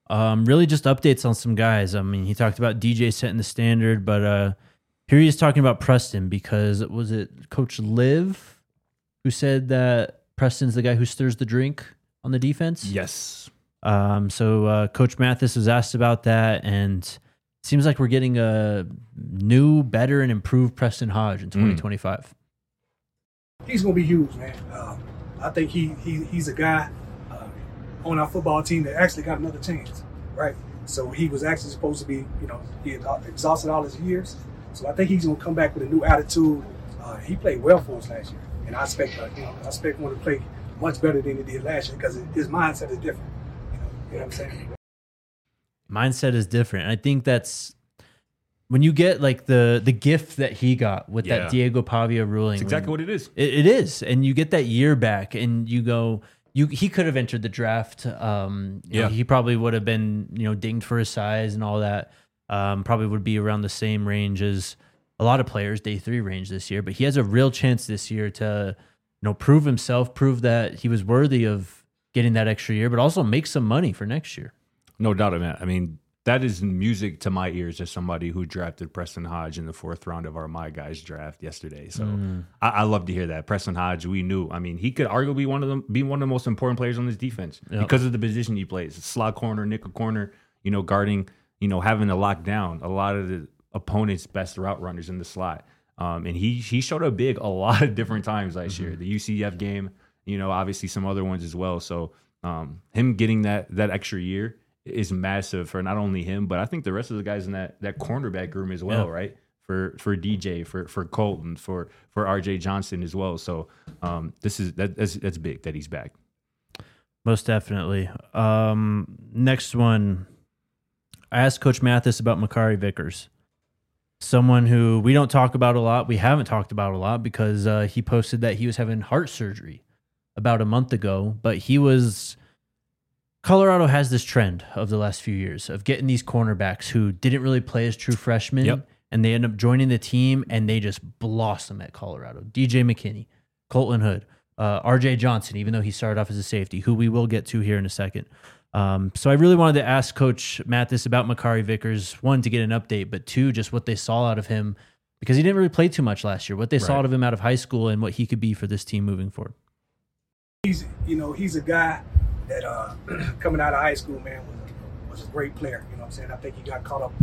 Really just updates on some guys. I mean, he talked about DJ setting the standard, but here he is talking about Preston because was it Coach Liv who said that Preston's the guy who stirs the drink on the defense? Yes. So Coach Mathis was asked about that, and it seems like we're getting a new, better, and improved Preston Hodge in 2025. He's going to be huge, man. I think he's a guy on our football team that actually got another chance, right? So he was actually supposed to be, he had exhausted all his years. So I think he's going to come back with a new attitude. He played well for us last year, and I expect him to play much better than he did last year because his mindset is different. You know what I'm saying? Mindset is different. I think that's when you get like the gift that he got with that Diego Pavia ruling. It's exactly what it is. It is, and you get that year back, and you go. He could have entered the draft. He probably would have been dinged for his size and all that. Probably would be around the same range as a lot of players, day 3 range this year. But he has a real chance this year to prove himself, prove that he was worthy of getting that extra year, but also make some money for next year. No doubt of it. I mean, that is music to my ears as somebody who drafted Preston Hodge in the 4th round of our My Guys draft yesterday. So I love to hear that. Preston Hodge, we knew. I mean, he could arguably be one of the most important players on this defense because of the position he plays. Slot corner, nickel corner, guarding, having to lock down a lot of the opponent's best route runners in the slot. And he showed up big a lot of different times last year. The UCF game, obviously some other ones as well. So him getting that extra year is massive for not only him, but I think the rest of the guys in that cornerback room as well, right? For DJ, for Colton, for RJ Johnson as well. So that's big that he's back. Most definitely. Next one, I asked Coach Mathis about Makari Vickers, someone who we don't talk about a lot. We haven't talked about a lot because he posted that he was having heart surgery about a month ago, but Colorado has this trend of the last few years of getting these cornerbacks who didn't really play as true freshmen, and they end up joining the team, and they just blossom at Colorado. DJ McKinney, Colton Hood, RJ Johnson, even though he started off as a safety, who we will get to here in a second. So I really wanted to ask Coach Mathis about Makari Vickers, 1, to get an update, but 2, just what they saw out of him, because he didn't really play too much last year, what they saw out of him out of high school and what he could be for this team moving forward. He's a guy that coming out of high school, man, was a great player. You know what I'm saying? I think he got caught up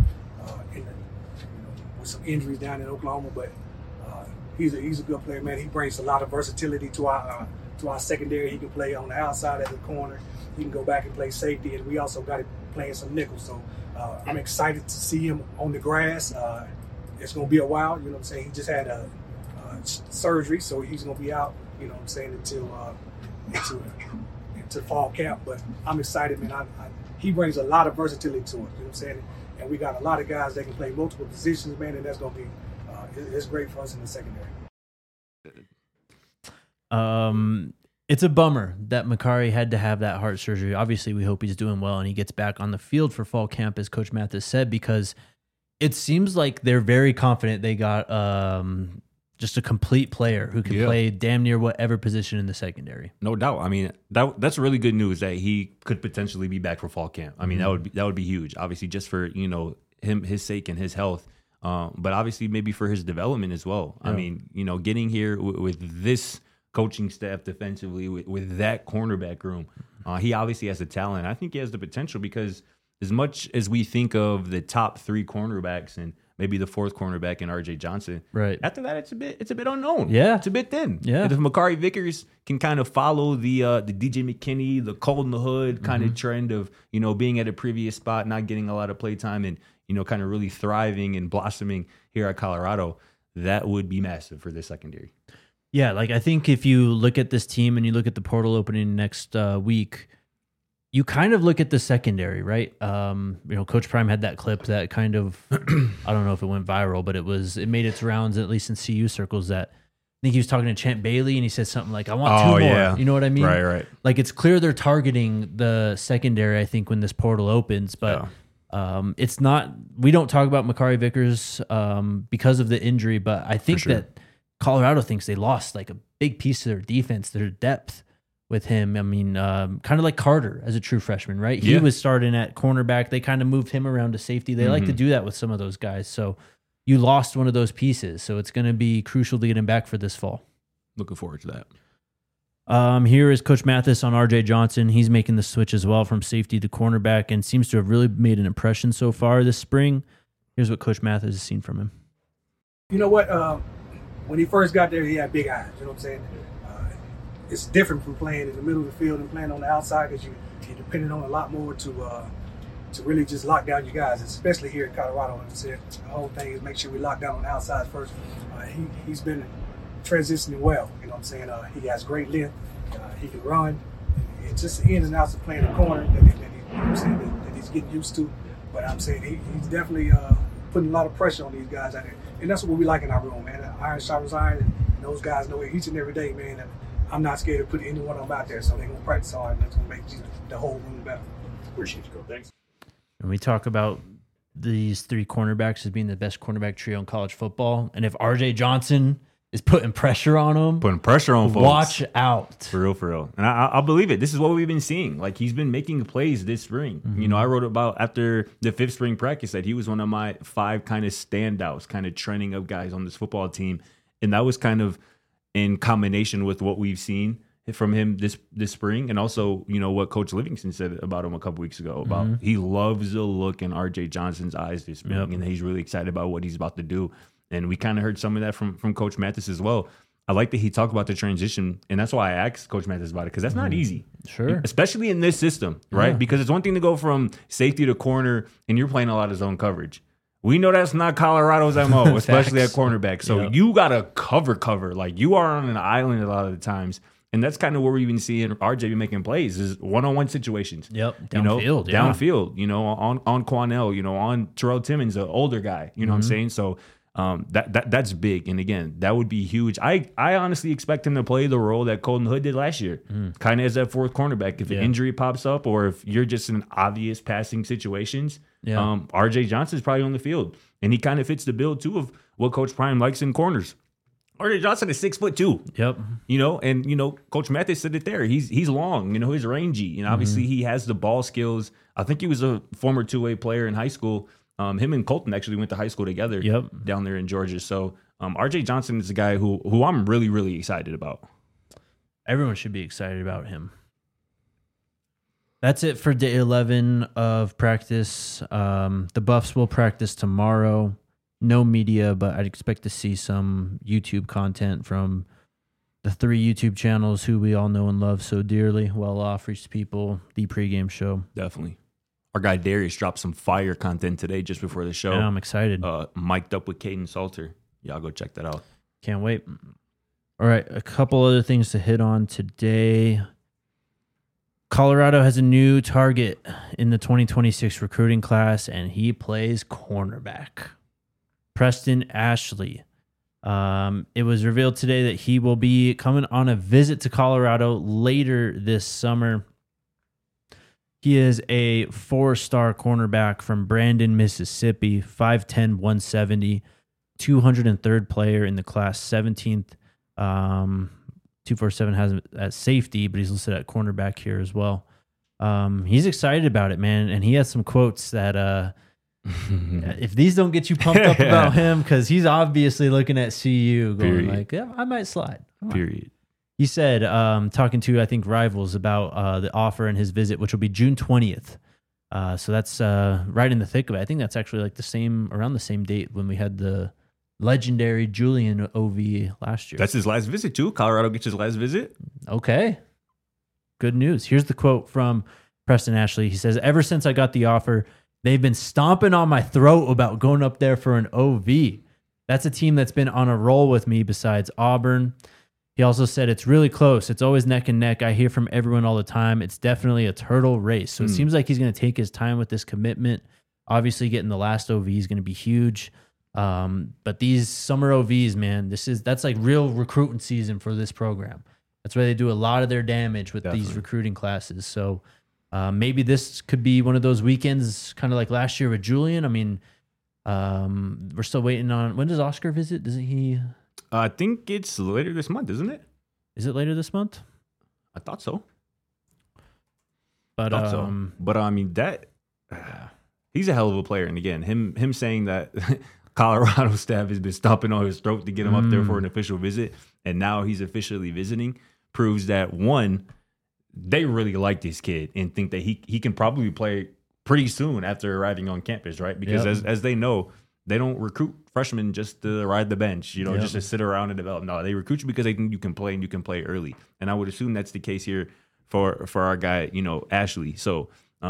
with some injuries down in Oklahoma, but he's a good player, man. He brings a lot of versatility to our secondary. He can play on the outside as a corner. He can go back and play safety, and we also got him playing some nickel. So I'm excited to see him on the grass. It's going to be a while. You know what I'm saying? He just had a surgery, so he's going to be out. You know what I'm saying until fall camp, but I'm excited, man. He brings a lot of versatility to us, you know what I'm saying? And we got a lot of guys that can play multiple positions, man, and that's going to be it's great for us in the secondary. It's a bummer that Makari had to have that heart surgery. Obviously, we hope he's doing well and he gets back on the field for fall camp, as Coach Mathis said, because it seems like they're very confident they got just a complete player who can play damn near whatever position in the secondary. No doubt. I mean, that's really good news that he could potentially be back for fall camp. I mean, that would be huge. Obviously, just for his sake and his health, but obviously maybe for his development as well. Yeah. I mean, getting here with this coaching staff defensively, with that cornerback room, he obviously has the talent. I think he has the potential because as much as we think of the top 3 cornerbacks and maybe the 4th cornerback in RJ Johnson. Right. After that, it's a bit unknown. Yeah. It's a bit thin. Yeah. And if Makari Vickers can kind of follow the DJ McKinney, the Colton Hood kind of trend of, being at a previous spot, not getting a lot of play time and, kind of really thriving and blossoming here at Colorado, that would be massive for this secondary. Yeah. Like I think if you look at this team and you look at the portal opening next week, you kind of look at the secondary, right? Coach Prime had that clip that kind of, I don't know if it went viral, but it made its rounds, at least in CU circles, that I think he was talking to Champ Bailey and he said something like, I want 2 more. Yeah. You know what I mean? Right. Like it's clear they're targeting the secondary, I think, when this portal opens, but it's not, we don't talk about Makari Vickers because of the injury, but I think that Colorado thinks they lost like a big piece of their defense, their depth, with him. I mean, kind of like Carter as a true freshman, right? He Yeah. was starting at cornerback. They kind of moved him around to safety. They like to do that with some of those guys. So you lost one of those pieces. So it's going to be crucial to get him back for this fall. Looking forward to that. Here is Coach Mathis on RJ Johnson. He's making the switch as well from safety to cornerback and seems to have really made an impression so far this spring. Here's what Coach Mathis has seen from him. You know what? When he first got there, he had big eyes. You know what I'm saying? It's different from playing in the middle of the field and playing on the outside because you're depending on a lot more to really just lock down your guys, especially here in Colorado. Like I said, the whole thing is make sure we lock down on the outside first. He's been transitioning well. You know what I'm saying? He has great length. He can run. It's just in and outs of playing the corner that he's getting used to. But I'm saying he's definitely putting a lot of pressure on these guys out there. And that's what we like in our room, man. Iron sharpens iron, and those guys know it each and every day, man. And I'm not scared to put any one of them out there, so they're going to practice hard, and that's going to make the whole room better. Appreciate you, Coach. Thanks. And we talk about these three cornerbacks as being the best cornerback trio in college football. And if RJ Johnson is putting pressure on them, Putting pressure on folks. watch out. For real. And I'll believe it. This is what we've been seeing. Like, he's been making plays this spring. You know, I wrote about after the 5th spring practice that he was one of my 5 kind of standouts, kind of trending up guys on this football team. And that was kind of in combination with what we've seen from him this spring. And also, you know, what Coach Livingston said about him a couple weeks ago about he loves the look in RJ Johnson's eyes this spring. And he's really excited about what he's about to do. And we kind of heard some of that from Coach Mathis as well. I like that he talked about the transition, and that's why I asked Coach Mathis about it, because that's not easy. Sure. Especially in this system, right? Yeah. Because it's one thing to go from safety to corner, and you're playing a lot of zone coverage. We know that's not Colorado's MO, especially at Facts. cornerback. So Yep. you got to cover. Like, you are on an island a lot of the times. And that's kind of where we've been seeing RJ be making plays is one-on-one situations. Yep. Downfield, Yeah. downfield, on Quanell, on Terrell Timmons, the older guy. You know what I'm saying? So that's big. And again, that would be huge. I honestly expect him to play the role that Colton Hood did last year, kind of as that 4th cornerback. If an injury pops up or if you're just in obvious passing situations, RJ Johnson's probably on the field. And he kind of fits the bill too of what Coach Prime likes in corners. RJ Johnson is 6'2". Yep. And Coach Mathis said it there. He's long, he's rangy, and obviously he has the ball skills. I think he was a former 2-way player in high school. Him and Colton actually went to high school together down there in Georgia. So RJ Johnson is a guy who I'm really, really excited about. Everyone should be excited about him. That's it for day 11 of practice. The Buffs will practice tomorrow. No media, but I'd expect to see some YouTube content from the 3 YouTube channels who we all know and love so dearly. Well Off, Reach People, The Pregame Show. Definitely. Our guy Darius dropped some fire content today just before the show. Yeah, I'm excited. Mic'd up with Caden Salter. Y'all go check that out. Can't wait. All right, a couple other things to hit on today. Colorado has a new target in the 2026 recruiting class, and he plays cornerback. Preston Ashley. It was revealed today that he will be coming on a visit to Colorado later this summer. He is a 4-star cornerback from Brandon, Mississippi, 5'10", 170, 203rd player in the class, 17th. 247 has him at safety, but he's listed at cornerback here as well. He's excited about it, man, and he has some quotes that if these don't get you pumped up about him, because he's obviously looking at CU going like, yeah, I might slide. Period. He said, talking to, I think, Rivals about the offer and his visit, which will be June 20th. So that's right in the thick of it. I think that's actually like around the same date when we had the legendary Julian OV last year. That's his last visit too. Colorado gets his last visit. Okay. Good news. Here's the quote from Preston Ashley. He says, ever since I got the offer, they've been stomping on my throat about going up there for an OV. That's a team that's been on a roll with me besides Auburn. He also said it's really close. It's always neck and neck. I hear from everyone all the time. It's definitely a turtle race. So it seems like he's going to take his time with this commitment. Obviously, getting the last OV is going to be huge. But these summer OVs, man, that's like real recruiting season for this program. That's where they do a lot of their damage with these recruiting classes. So maybe this could be one of those weekends, kind of like last year with Julian. I mean, we're still waiting on, when does Oscar visit? Doesn't he? I think it's later this month, isn't it? Is it later this month? I thought so. But But I mean that he's a hell of a player. And again, him saying that Colorado staff has been stomping on his throat to get him up there for an official visit, and now he's officially visiting, proves that one, they really like this kid and think that he can probably play pretty soon after arriving on campus, right? Because as they know, they don't recruit freshmen just to ride the bench, just to sit around and develop. No, they recruit you because they think you can play and you can play early. And I would assume that's the case here for our guy, Ashley. So,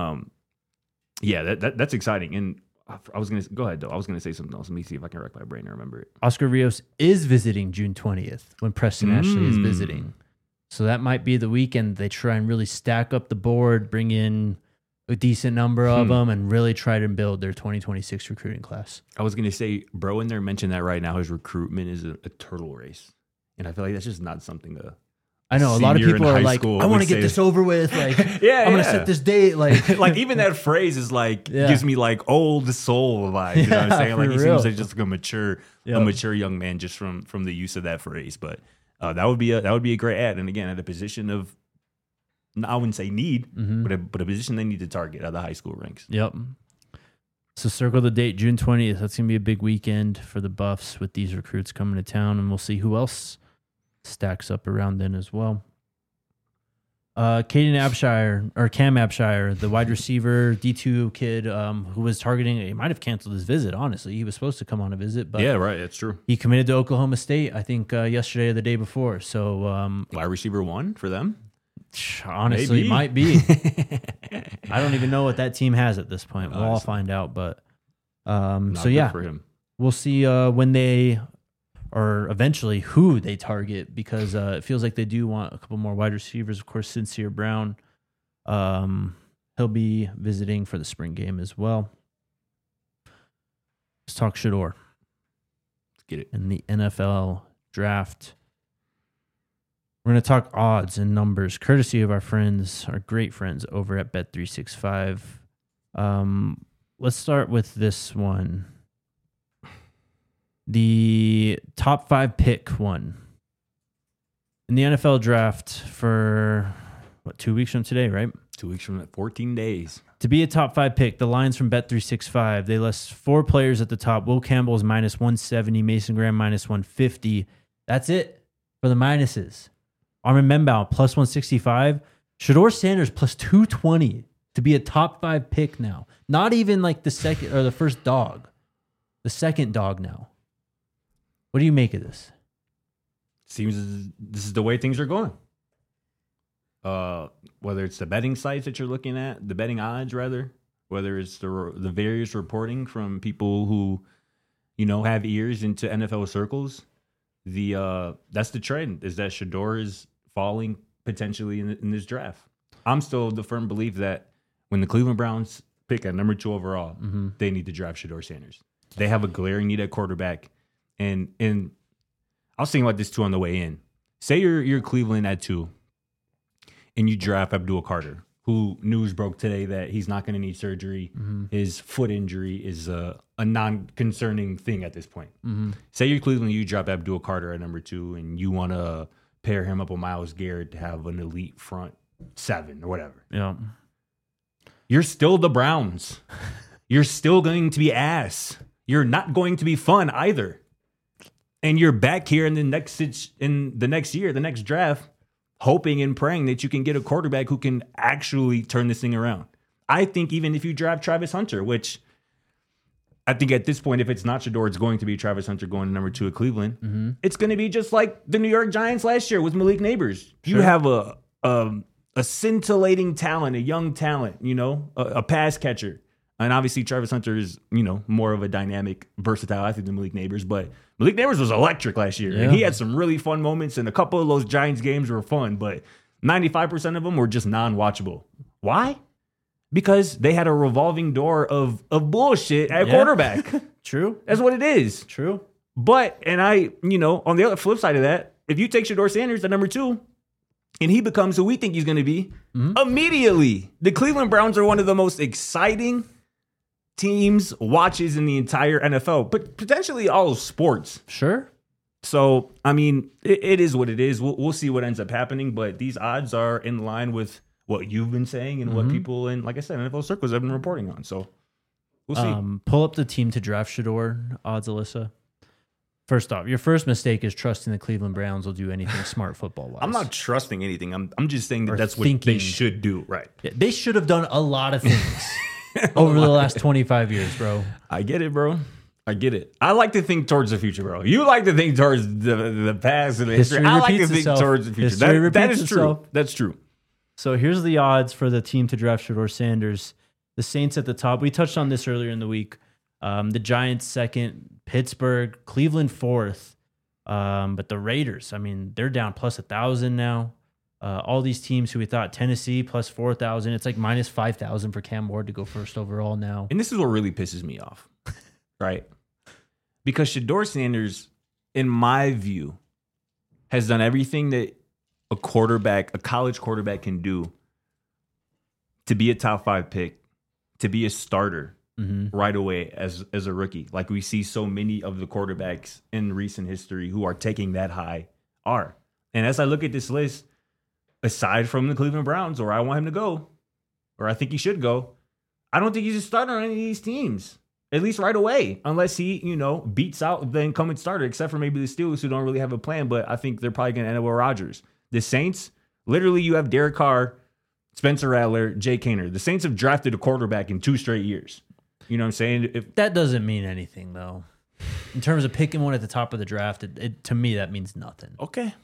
that's exciting. And I was gonna go ahead though. I was gonna say something else. Let me see if I can rack my brain and remember it. Oscar Rios is visiting June 20th when Preston Ashley is visiting. So that might be the weekend they try and really stack up the board, bring in a decent number of them, and really try to build their 2026 recruiting class. I was going to say, bro in there mentioned that right now his recruitment is a turtle race. And I feel like that's just not something to... I know, a lot of people are like, I want to get this over with. Like, I'm going to set this date. Like, like even that phrase is like, gives me like old soul vibes. You know what I'm saying? Like he seems like just like a mature young man just from the use of that phrase. But that would be a great ad. And again, at a position of, I wouldn't say need, but a position they need to target at the high school ranks. Yep. So circle the date, June 20th. That's going to be a big weekend for the Buffs with these recruits coming to town, and we'll see who else stacks up around then as well. Cam Abshire, the wide receiver, D2 kid who was targeting, he might have canceled his visit, honestly. He was supposed to come on a visit, but yeah, right, that's true. He committed to Oklahoma State, I think, yesterday or the day before. So wide receiver 1 for them? Honestly, might be. I don't even know what that team has at this point. We'll all find out. But for him. We'll see when they, or eventually who they target, because it feels like they do want a couple more wide receivers. Of course, Sincere Brown, he'll be visiting for the spring game as well. Let's talk Shedeur. Let's get it. In the NFL draft. We're going to talk odds and numbers, courtesy of our great friends over at Bet365. Let's start with this one. The top 5 pick one. In the NFL draft for, 2 weeks from today, right? 2 weeks from 14 days. To be a top 5 pick, the lines from Bet365, they list 4 players at the top. Will Campbell is minus 170, Mason Graham minus 150. That's it for the minuses. Armin Membaugh, plus 165. Shedeur Sanders, plus 220 to be a top 5 pick now. Not even like the second or the first dog. The second dog now. What do you make of this? Seems this is the way things are going. Whether it's the betting sites that you're looking at, the betting odds rather, whether it's the various reporting from people who, have ears into NFL circles, that's the trend, is that Shedeur is falling potentially in this draft. I'm still of the firm belief that when the Cleveland Browns pick at number 2 overall, they need to draft Shedeur Sanders. They have a glaring need at quarterback. And I was thinking about this too on the way in. Say you're Cleveland at 2 and you draft Abdul Carter, who news broke today that he's not going to need surgery. His foot injury is a non-concerning thing at this point. Say you're Cleveland, you drop Abdul Carter at number 2 and you want to pair him up with Myles Garrett to have an elite front 7 or whatever. Yeah. You're still the Browns. You're still going to be ass. You're not going to be fun either. And you're back here in the next year, the next draft, hoping and praying that you can get a quarterback who can actually turn this thing around. I think even if you draft Travis Hunter, which I think at this point, if it's not Shedeur, it's going to be Travis Hunter going to number 2 at Cleveland. It's going to be just like the New York Giants last year with Malik Neighbors. Sure. You have a scintillating talent, a young talent, a pass catcher. And obviously Travis Hunter is, more of a dynamic, versatile athlete than Malik Neighbors. But Malik Neighbors was electric last year. Yeah. And he had some really fun moments. And a couple of those Giants games were fun. But 95% of them were just non-watchable. Why? Because they had a revolving door of bullshit at quarterback. True. That's what it is. True. But, and on the other flip side of that, if you take Shedeur Sanders at number 2, and he becomes who we think he's going to be, immediately, the Cleveland Browns are one of the most exciting teams, watches in the entire NFL, but potentially all of sports. Sure. So, I mean, it is what it is. We'll see what ends up happening, but these odds are in line with what you've been saying and what people in, like I said, NFL circles have been reporting on. So, we'll see. Pull up the team to draft Shador odds, Alyssa. First off, your first mistake is trusting the Cleveland Browns will do anything smart football-wise. I'm not trusting anything. I'm just saying that that's what thinking. they should do. Right. Yeah, they should have done a lot of things over the last 25 years, bro. I get it, bro. I get it. I like to think towards the future, bro. You like to think towards the past and the history. I like to think towards the future. That is true. That's true. So here's the odds for the team to draft Shador Sanders. The Saints at the top. We touched on this earlier in the week. The Giants second, Pittsburgh, Cleveland fourth. But the Raiders, I mean, they're down plus 1,000 now. All these teams who we thought, Tennessee plus 4,000. It's like minus 5,000 for Cam Ward to go first overall now. And this is what really pisses me off. Right? Because Shador Sanders, in my view, has done everything that a college quarterback can do to be a top 5 pick, to be a starter right away as a rookie. Like we see so many of the quarterbacks in recent history who are taking that high are. And as I look at this list, aside from the Cleveland Browns, or I want him to go, or I think he should go, I don't think he's a starter on any of these teams. At least right away, unless he, beats out the incumbent starter, except for maybe the Steelers who don't really have a plan, but I think they're probably going to end up with Rodgers. The Saints, literally you have Derek Carr, Spencer Rattler, Jay Kaner. The Saints have drafted a quarterback in 2 straight years. You know what I'm saying? That doesn't mean anything, though. In terms of picking one at the top of the draft, to me, that means nothing. Okay.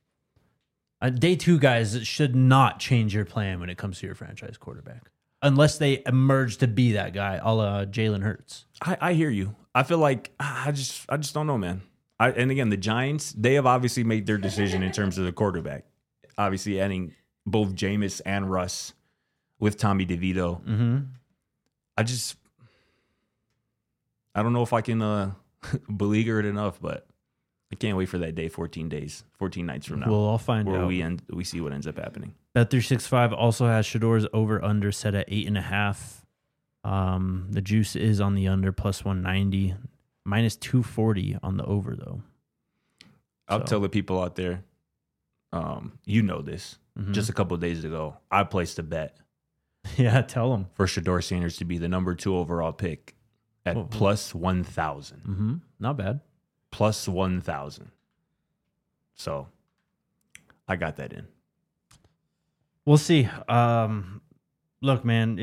Day 2 guys should not change your plan when it comes to your franchise quarterback. Unless they emerge to be that guy, a la Jalen Hurts. I hear you. I feel like I just don't know, man. And again, the Giants, they have obviously made their decision in terms of the quarterback. Obviously, adding both Jameis and Russ with Tommy DeVito. Mm-hmm. I don't know if I can beleaguer it enough, but I can't wait for that day. 14 nights from now. We'll all find out. Where we see what ends up happening. Bet365 also has Shador's over-under set at 8.5. The juice is on the under plus 190, minus 240 on the over, though. I'll tell the people out there, you know this. Mm-hmm. Just a couple of days ago, I placed a bet. Yeah, tell them. For Shador Sanders to be the number 2 overall pick at plus 1,000. Mm-hmm. Not bad. Plus 1,000. So I got that in. We'll see. Look, man,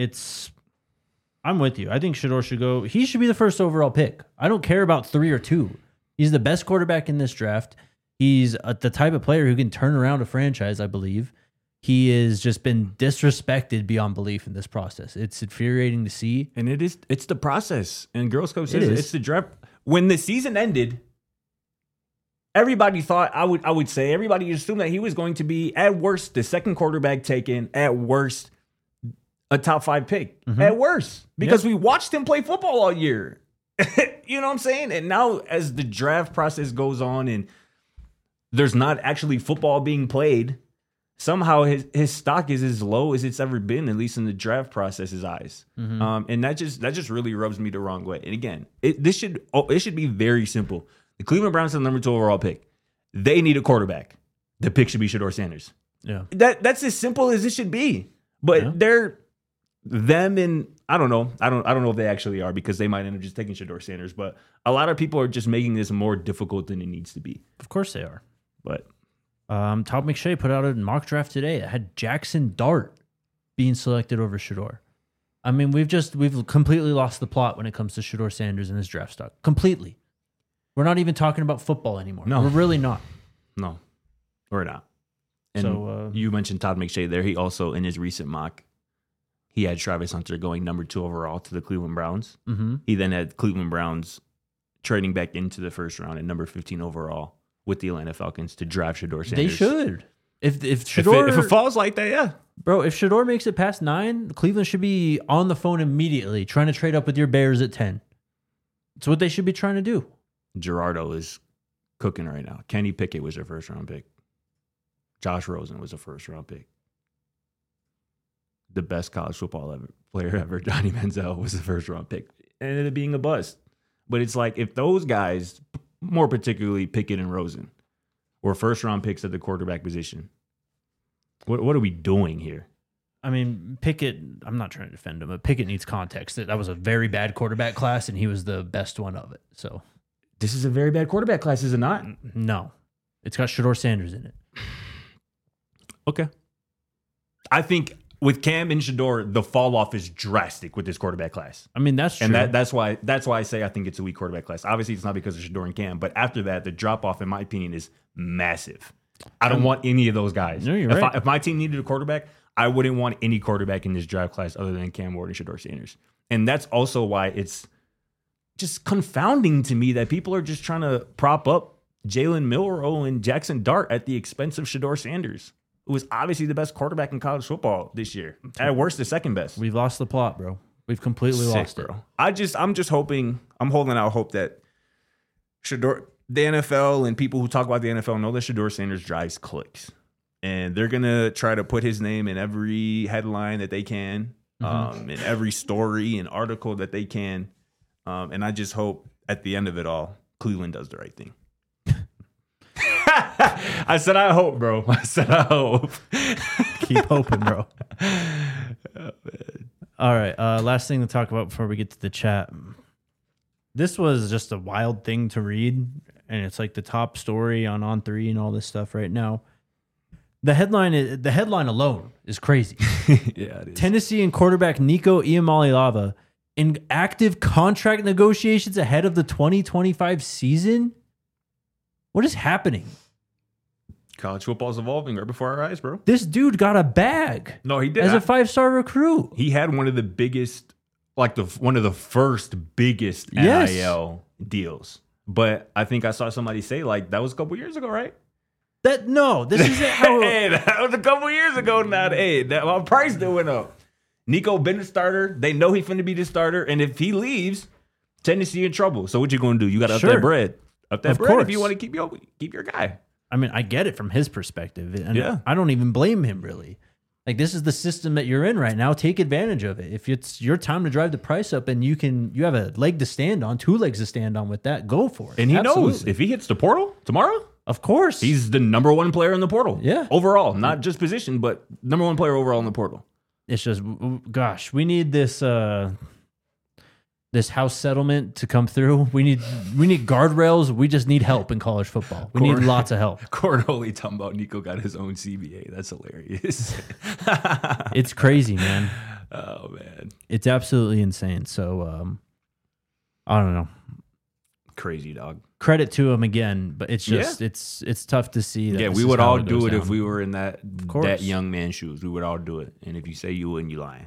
I'm with you. I think Shador should go. He should be the first overall pick. I don't care about 3 or 2. He's the best quarterback in this draft. He's the type of player who can turn around a franchise, I believe. He has just been disrespected beyond belief in this process. It's infuriating to see. And it's the process. And Girl Scout says it's the draft. When the season ended, everybody thought, I would say, everybody assumed that he was going to be, at worst, the second quarterback taken, at worst, a top 5 pick. At worst. Because we watched him play football all year. You know what I'm saying? And now as the draft process goes on and there's not actually football being played, somehow his stock is as low as it's ever been, at least in the draft process's eyes. And that just really rubs me the wrong way. And again, it should be very simple. The Cleveland Browns are the number 2 overall pick. They need a quarterback. The pick should be Shador Sanders. Yeah. That's as simple as it should be. But they're them, and I don't know. I don't know if they actually are, because they might end up just taking Shador Sanders. But a lot of people are just making this more difficult than it needs to be. Of course they are. But Todd McShay put out a mock draft today that had Jackson Dart being selected over Shador. I mean, we've completely lost the plot when it comes to Shador Sanders and his draft stock. Completely. We're not even talking about football anymore. No. We're really not. No, we're not. And you mentioned Todd McShay there. He also, in his recent mock, he had Travis Hunter going number 2 overall to the Cleveland Browns. Mm-hmm. He then had Cleveland Browns trading back into the first round at number 15 overall with the Atlanta Falcons to draft Shador Sanders. They should. If Shador, if it falls like that, yeah. Bro, if Shador makes it past 9, Cleveland should be on the phone immediately trying to trade up with your Bears at 10. It's what they should be trying to do. Gerardo is cooking right now. Kenny Pickett was their first round pick. Josh Rosen was a first round pick. The best college football player ever, Johnny Manziel, was the first round pick. And ended up being a bust. But it's like, if those guys more particularly Pickett and Rosen, or first-round picks at the quarterback position. What are we doing here? I mean, Pickett, I'm not trying to defend him, but Pickett needs context. That was a very bad quarterback class, and he was the best one of it. So This is a very bad quarterback class, is it not? no, it's got Shedeur Sanders in it. Okay. I think with Cam and Shedeur, the fall off is drastic with this quarterback class. I mean, that's true. And that's why I say I think it's a weak quarterback class. Obviously, it's not because of Shedeur and Cam, but after that, the drop off, in my opinion, is massive. I don't want any of those guys. No, you're right. If my team needed a quarterback, I wouldn't want any quarterback in this draft class other than Cam Ward and Shedeur Sanders. And that's also why it's just confounding to me that people are just trying to prop up Jalen Milroe and Jackson Dart at the expense of Shedeur Sanders, who was obviously the best quarterback in college football this year. At worst, the second best. We've lost the plot, bro. We've completely lost it. I'm just hoping, I'm holding out hope that Shedeur, the NFL and people who talk about the NFL know that Shedeur Sanders drives clicks. And they're going to try to put his name in every headline that they can, in every story and article that they can. And I just hope at the end of it all, Cleveland does the right thing. I said, I hope, bro. I said, I hope. Keep hoping, bro. All right. Last thing to talk about before we get to the chat. This was just a wild thing to read, and it's like the top story on On3 and all this stuff right now. The headline alone is crazy. Yeah, it is. Tennessee and quarterback Nico Iamaleava in active contract negotiations ahead of the 2025 season. What is happening? College football is evolving right before our eyes, bro. This dude got a bag. No, he did. As a 5-star recruit. He had one of the biggest, one of the first biggest NIL deals. But I think I saw somebody say, that was a couple years ago, right? This isn't how. Hey, that was a couple years ago now. Hey, my price that went up. Nico been the starter. They know he finna be the starter. And if he leaves, Tennessee in trouble. So what you gonna do? You gotta up that bread. Up that bread if you want to keep your guy. I mean, I get it from his perspective. And yeah. I don't even blame him, really. Like, this is the system that you're in right now. Take advantage of it. If it's your time to drive the price up and you have a leg to stand on, 2 legs to stand on with that, go for it. And he knows if he hits the portal tomorrow, of course, he's the number 1 player in the portal. Yeah. Overall, not just position, but number 1 player overall in the portal. It's just, gosh, we need this this house settlement to come through. We need guardrails. We just need help in college football. We need lots of help. Cornhole talking about Nico got his own CBA. That's hilarious. It's crazy, man. Oh man, it's absolutely insane. So I don't know. Crazy, dog. Credit to him again, but it's just it's tough to see. That we would all do it if we were in that young man's shoes. We would all do it. And if you say you wouldn't, you lying.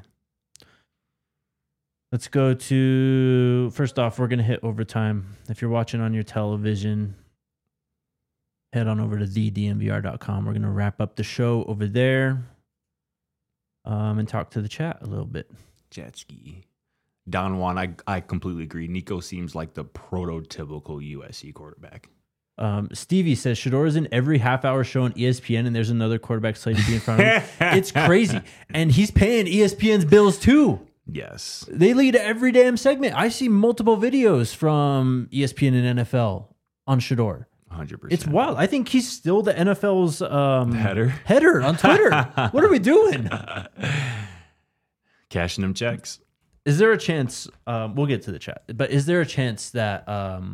Let's go to, first off, we're going to hit overtime. If you're watching on your television, head on over to thednvr.com. We're going to wrap up the show over there and talk to the chat a little bit. Jet ski. Don Juan, I completely agree. Nico seems like the prototypical USC quarterback. Stevie says, Shedeur is in every half-hour show on ESPN, and there's another quarterback slated to be in front of him. It's crazy. And he's paying ESPN's bills, too. Yes. They lead every damn segment. I see multiple videos from ESPN and NFL on Shedeur. 100%. It's wild. I think he's still the NFL's header on Twitter. What are we doing? Cashing them checks. Is there a chance, we'll get to the chat, but is there a chance that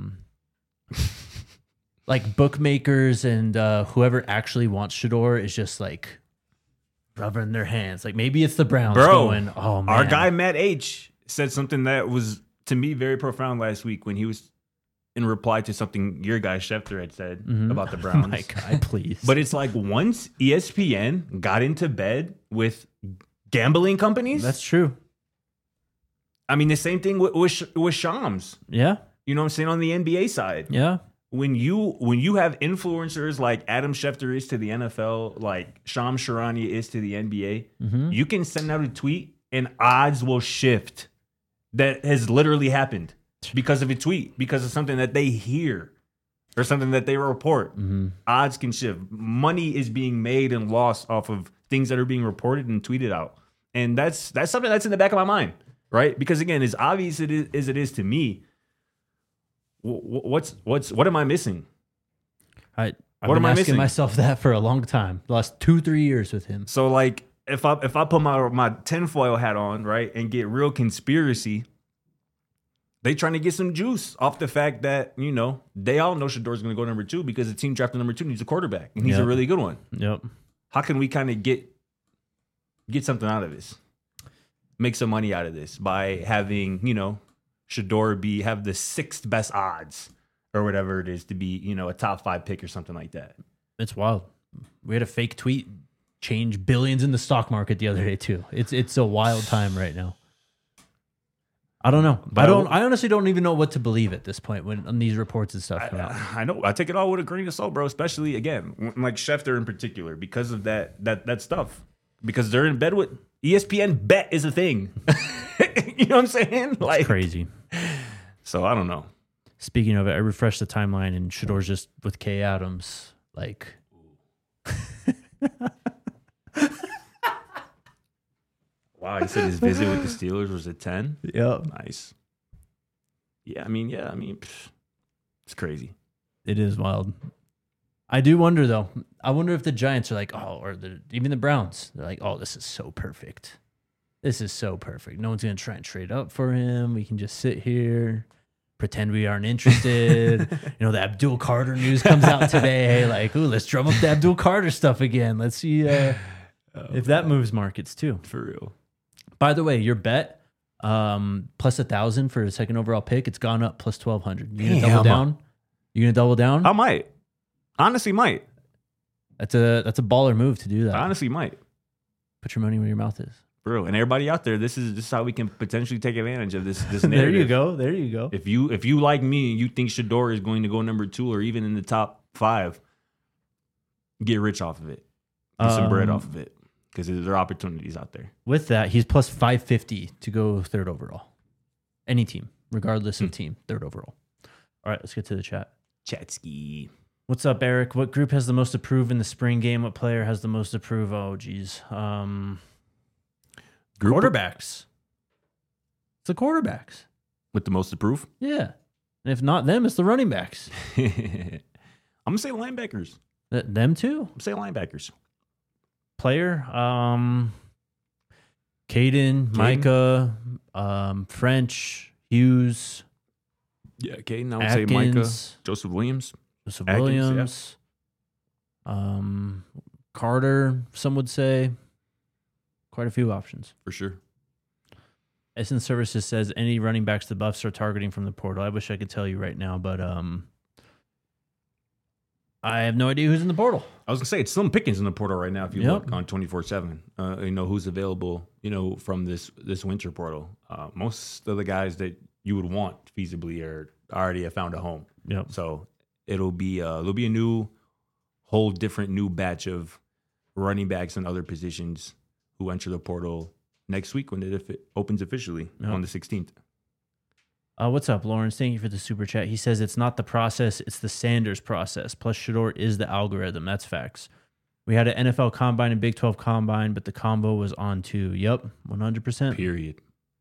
like bookmakers and whoever actually wants Shedeur is just like rubbing their hands? Like maybe it's the Browns going, oh man. Our guy Matt H said something that was to me very profound last week when he was in reply to something your guy Schefter had said about the Browns. My guy, please. But it's like once ESPN got into bed with gambling companies. That's true. I mean, the same thing with Shams. Yeah. You know what I'm saying? On the NBA side. Yeah. When you have influencers like Adam Schefter is to the NFL, like Shams Charania is to the NBA, you can send out a tweet and odds will shift. That has literally happened because of a tweet, because of something that they hear or something that they report. Odds can shift. Money is being made and lost off of things that are being reported and tweeted out. And that's something that's in the back of my mind, right? Because again, as obvious as it is to me, What am I missing? I've What been am I asking missing? myself that for a long time. The last 2-3 years with him. So like if I put my tinfoil hat on, right, and get real conspiracy, they trying to get some juice off the fact that, you know, they all know Shador's going to go number 2 because the team drafted number 2 needs a quarterback, and he's a really good one. Yep. How can we kind of get something out of this? Make some money out of this by having, you know, Shador have the 6th best odds or whatever it is to be, you know, a top 5 pick or something like that. It's wild. We had a fake tweet change billions in the stock market the other day too. It's a wild time right now. I don't know. But I honestly don't even know what to believe at this point when these reports and stuff come out. I know. I take it all with a grain of salt, bro. Especially again, like Schefter in particular, because of that stuff. Because they're in bed with ESPN. Bet is a thing. You know what I'm saying? Like It's crazy. So I don't know. Speaking of it, I refreshed the timeline and Shador's just with Kay Adams. Like, Wow, he said his visit with the Steelers was at 10. yep. Nice. Yeah, I mean, it's crazy. It is wild. I do wonder though. I wonder if the Giants are like, even the Browns. They're like, oh, this is so perfect. This is so perfect. No one's gonna try and trade up for him. We can just sit here, pretend we aren't interested. You know, the Abdul Carter news comes out today. Like, ooh, let's drum up the Abdul Carter stuff again. Let's see if that moves markets too. For real. By the way, your bet plus 1,000 for a second overall pick. It's gone up plus 1,200. You gonna double down? You gonna double down? I might. Honestly, might. That's a baller move to do that. I honestly might. Put your money where your mouth is. For real. And everybody out there, this is how we can potentially take advantage of this narrative. There you go. There you go. If you like me and you think Shador is going to go number 2 or even in the top 5, get rich off of it. Get some bread off of it. Because there are opportunities out there. With that, he's plus 550 to go 3rd overall. Any team, regardless of team, 3rd overall. All right, let's get to the chat. Chatsky. What's up, Eric? What group has the most approved in the spring game? What player has the most approved? Oh, geez. Quarterbacks. It's the quarterbacks. With the most approved? Yeah. And if not them, it's the running backs. I'm going to say linebackers. Them too? I'm going to say linebackers. Player, Caden, Micah, French, Hughes. Yeah, Caden. I would say Micah, Atkins, Joseph Williams. Joseph Atkins, Williams, Carter, some would say. Quite a few options. For sure. Essence Services says any running backs the Buffs are targeting from the portal. I wish I could tell you right now, but I have no idea who's in the portal. I was going to say, it's Slim Pickens in the portal right now if you look on 24/7. You know, who's available, you know, from this winter portal. Most of the guys that you would want feasibly already have found a home. Yep. So there'll be a whole different new batch of running backs and other positions who enter the portal next week when it opens officially on the 16th. What's up, Lawrence? Thank you for the super chat. He says it's not the process, it's the Sanders process. Plus, Shador is the algorithm. That's facts. We had an NFL combine and Big 12 combine, but the combo was on too. Yep, 100%. Period.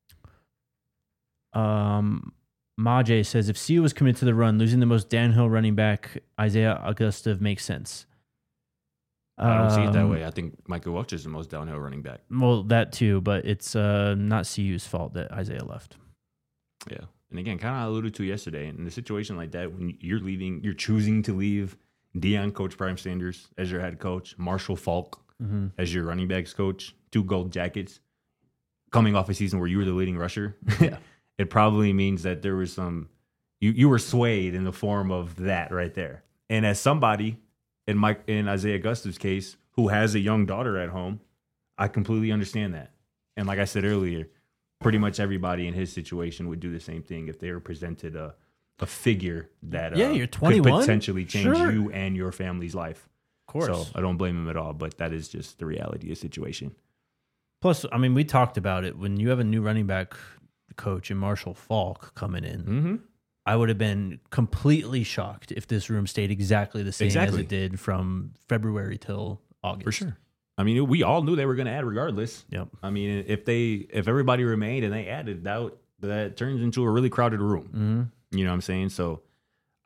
Majay says if CU was committed to the run, losing the most downhill running back, Isaiah Augusta, makes sense. I don't see it that way. I think Michael Welch is the most downhill running back. Well, that too, but it's not CU's fault that Isaiah left. Yeah. And again, kind of alluded to yesterday, in a situation like that, when you're choosing to leave Deion, Coach Prime Sanders as your head coach, Marshall Falk as your running backs coach, 2 gold jackets, coming off a season where you were the leading rusher. Yeah. It probably means that there was you were swayed in the form of that right there. And as somebody in Isaiah Augusta's case, who has a young daughter at home, I completely understand that. And like I said earlier, pretty much everybody in his situation would do the same thing if they were presented a figure that you're 21? could potentially change Sure. you and your family's life. Of course. So I don't blame him at all, but that is just the reality of the situation. Plus, I mean, we talked about it. When you have a new running back coach and Marshall Falk coming in, Mm-hmm. I would have been completely shocked if this room stayed exactly the same as it did from February till August. For sure. I mean, we all knew they were going to add regardless. Yep. I mean, if everybody remained and they added, that turns into a really crowded room. Mm-hmm. You know what I'm saying? So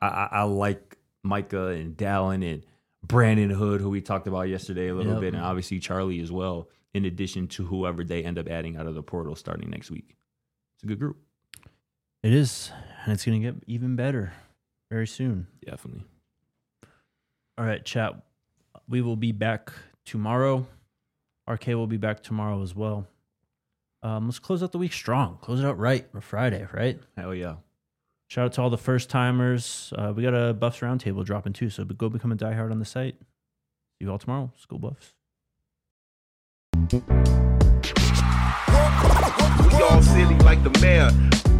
I like Micah and Dallin and Brandon Hood, who we talked about yesterday a little bit, and obviously Charlie as well, in addition to whoever they end up adding out of the portal starting next week. It's a good group. It is, and it's going to get even better very soon. Definitely. All right, chat. We will be back tomorrow. RK will be back tomorrow as well. Let's close out the week strong. Close it out right for Friday, right? Hell yeah. Shout out to all the first timers. We got a Buffs Roundtable dropping too, so go become a diehard on the site. See you all tomorrow. School Buffs. We all silly like the mayor.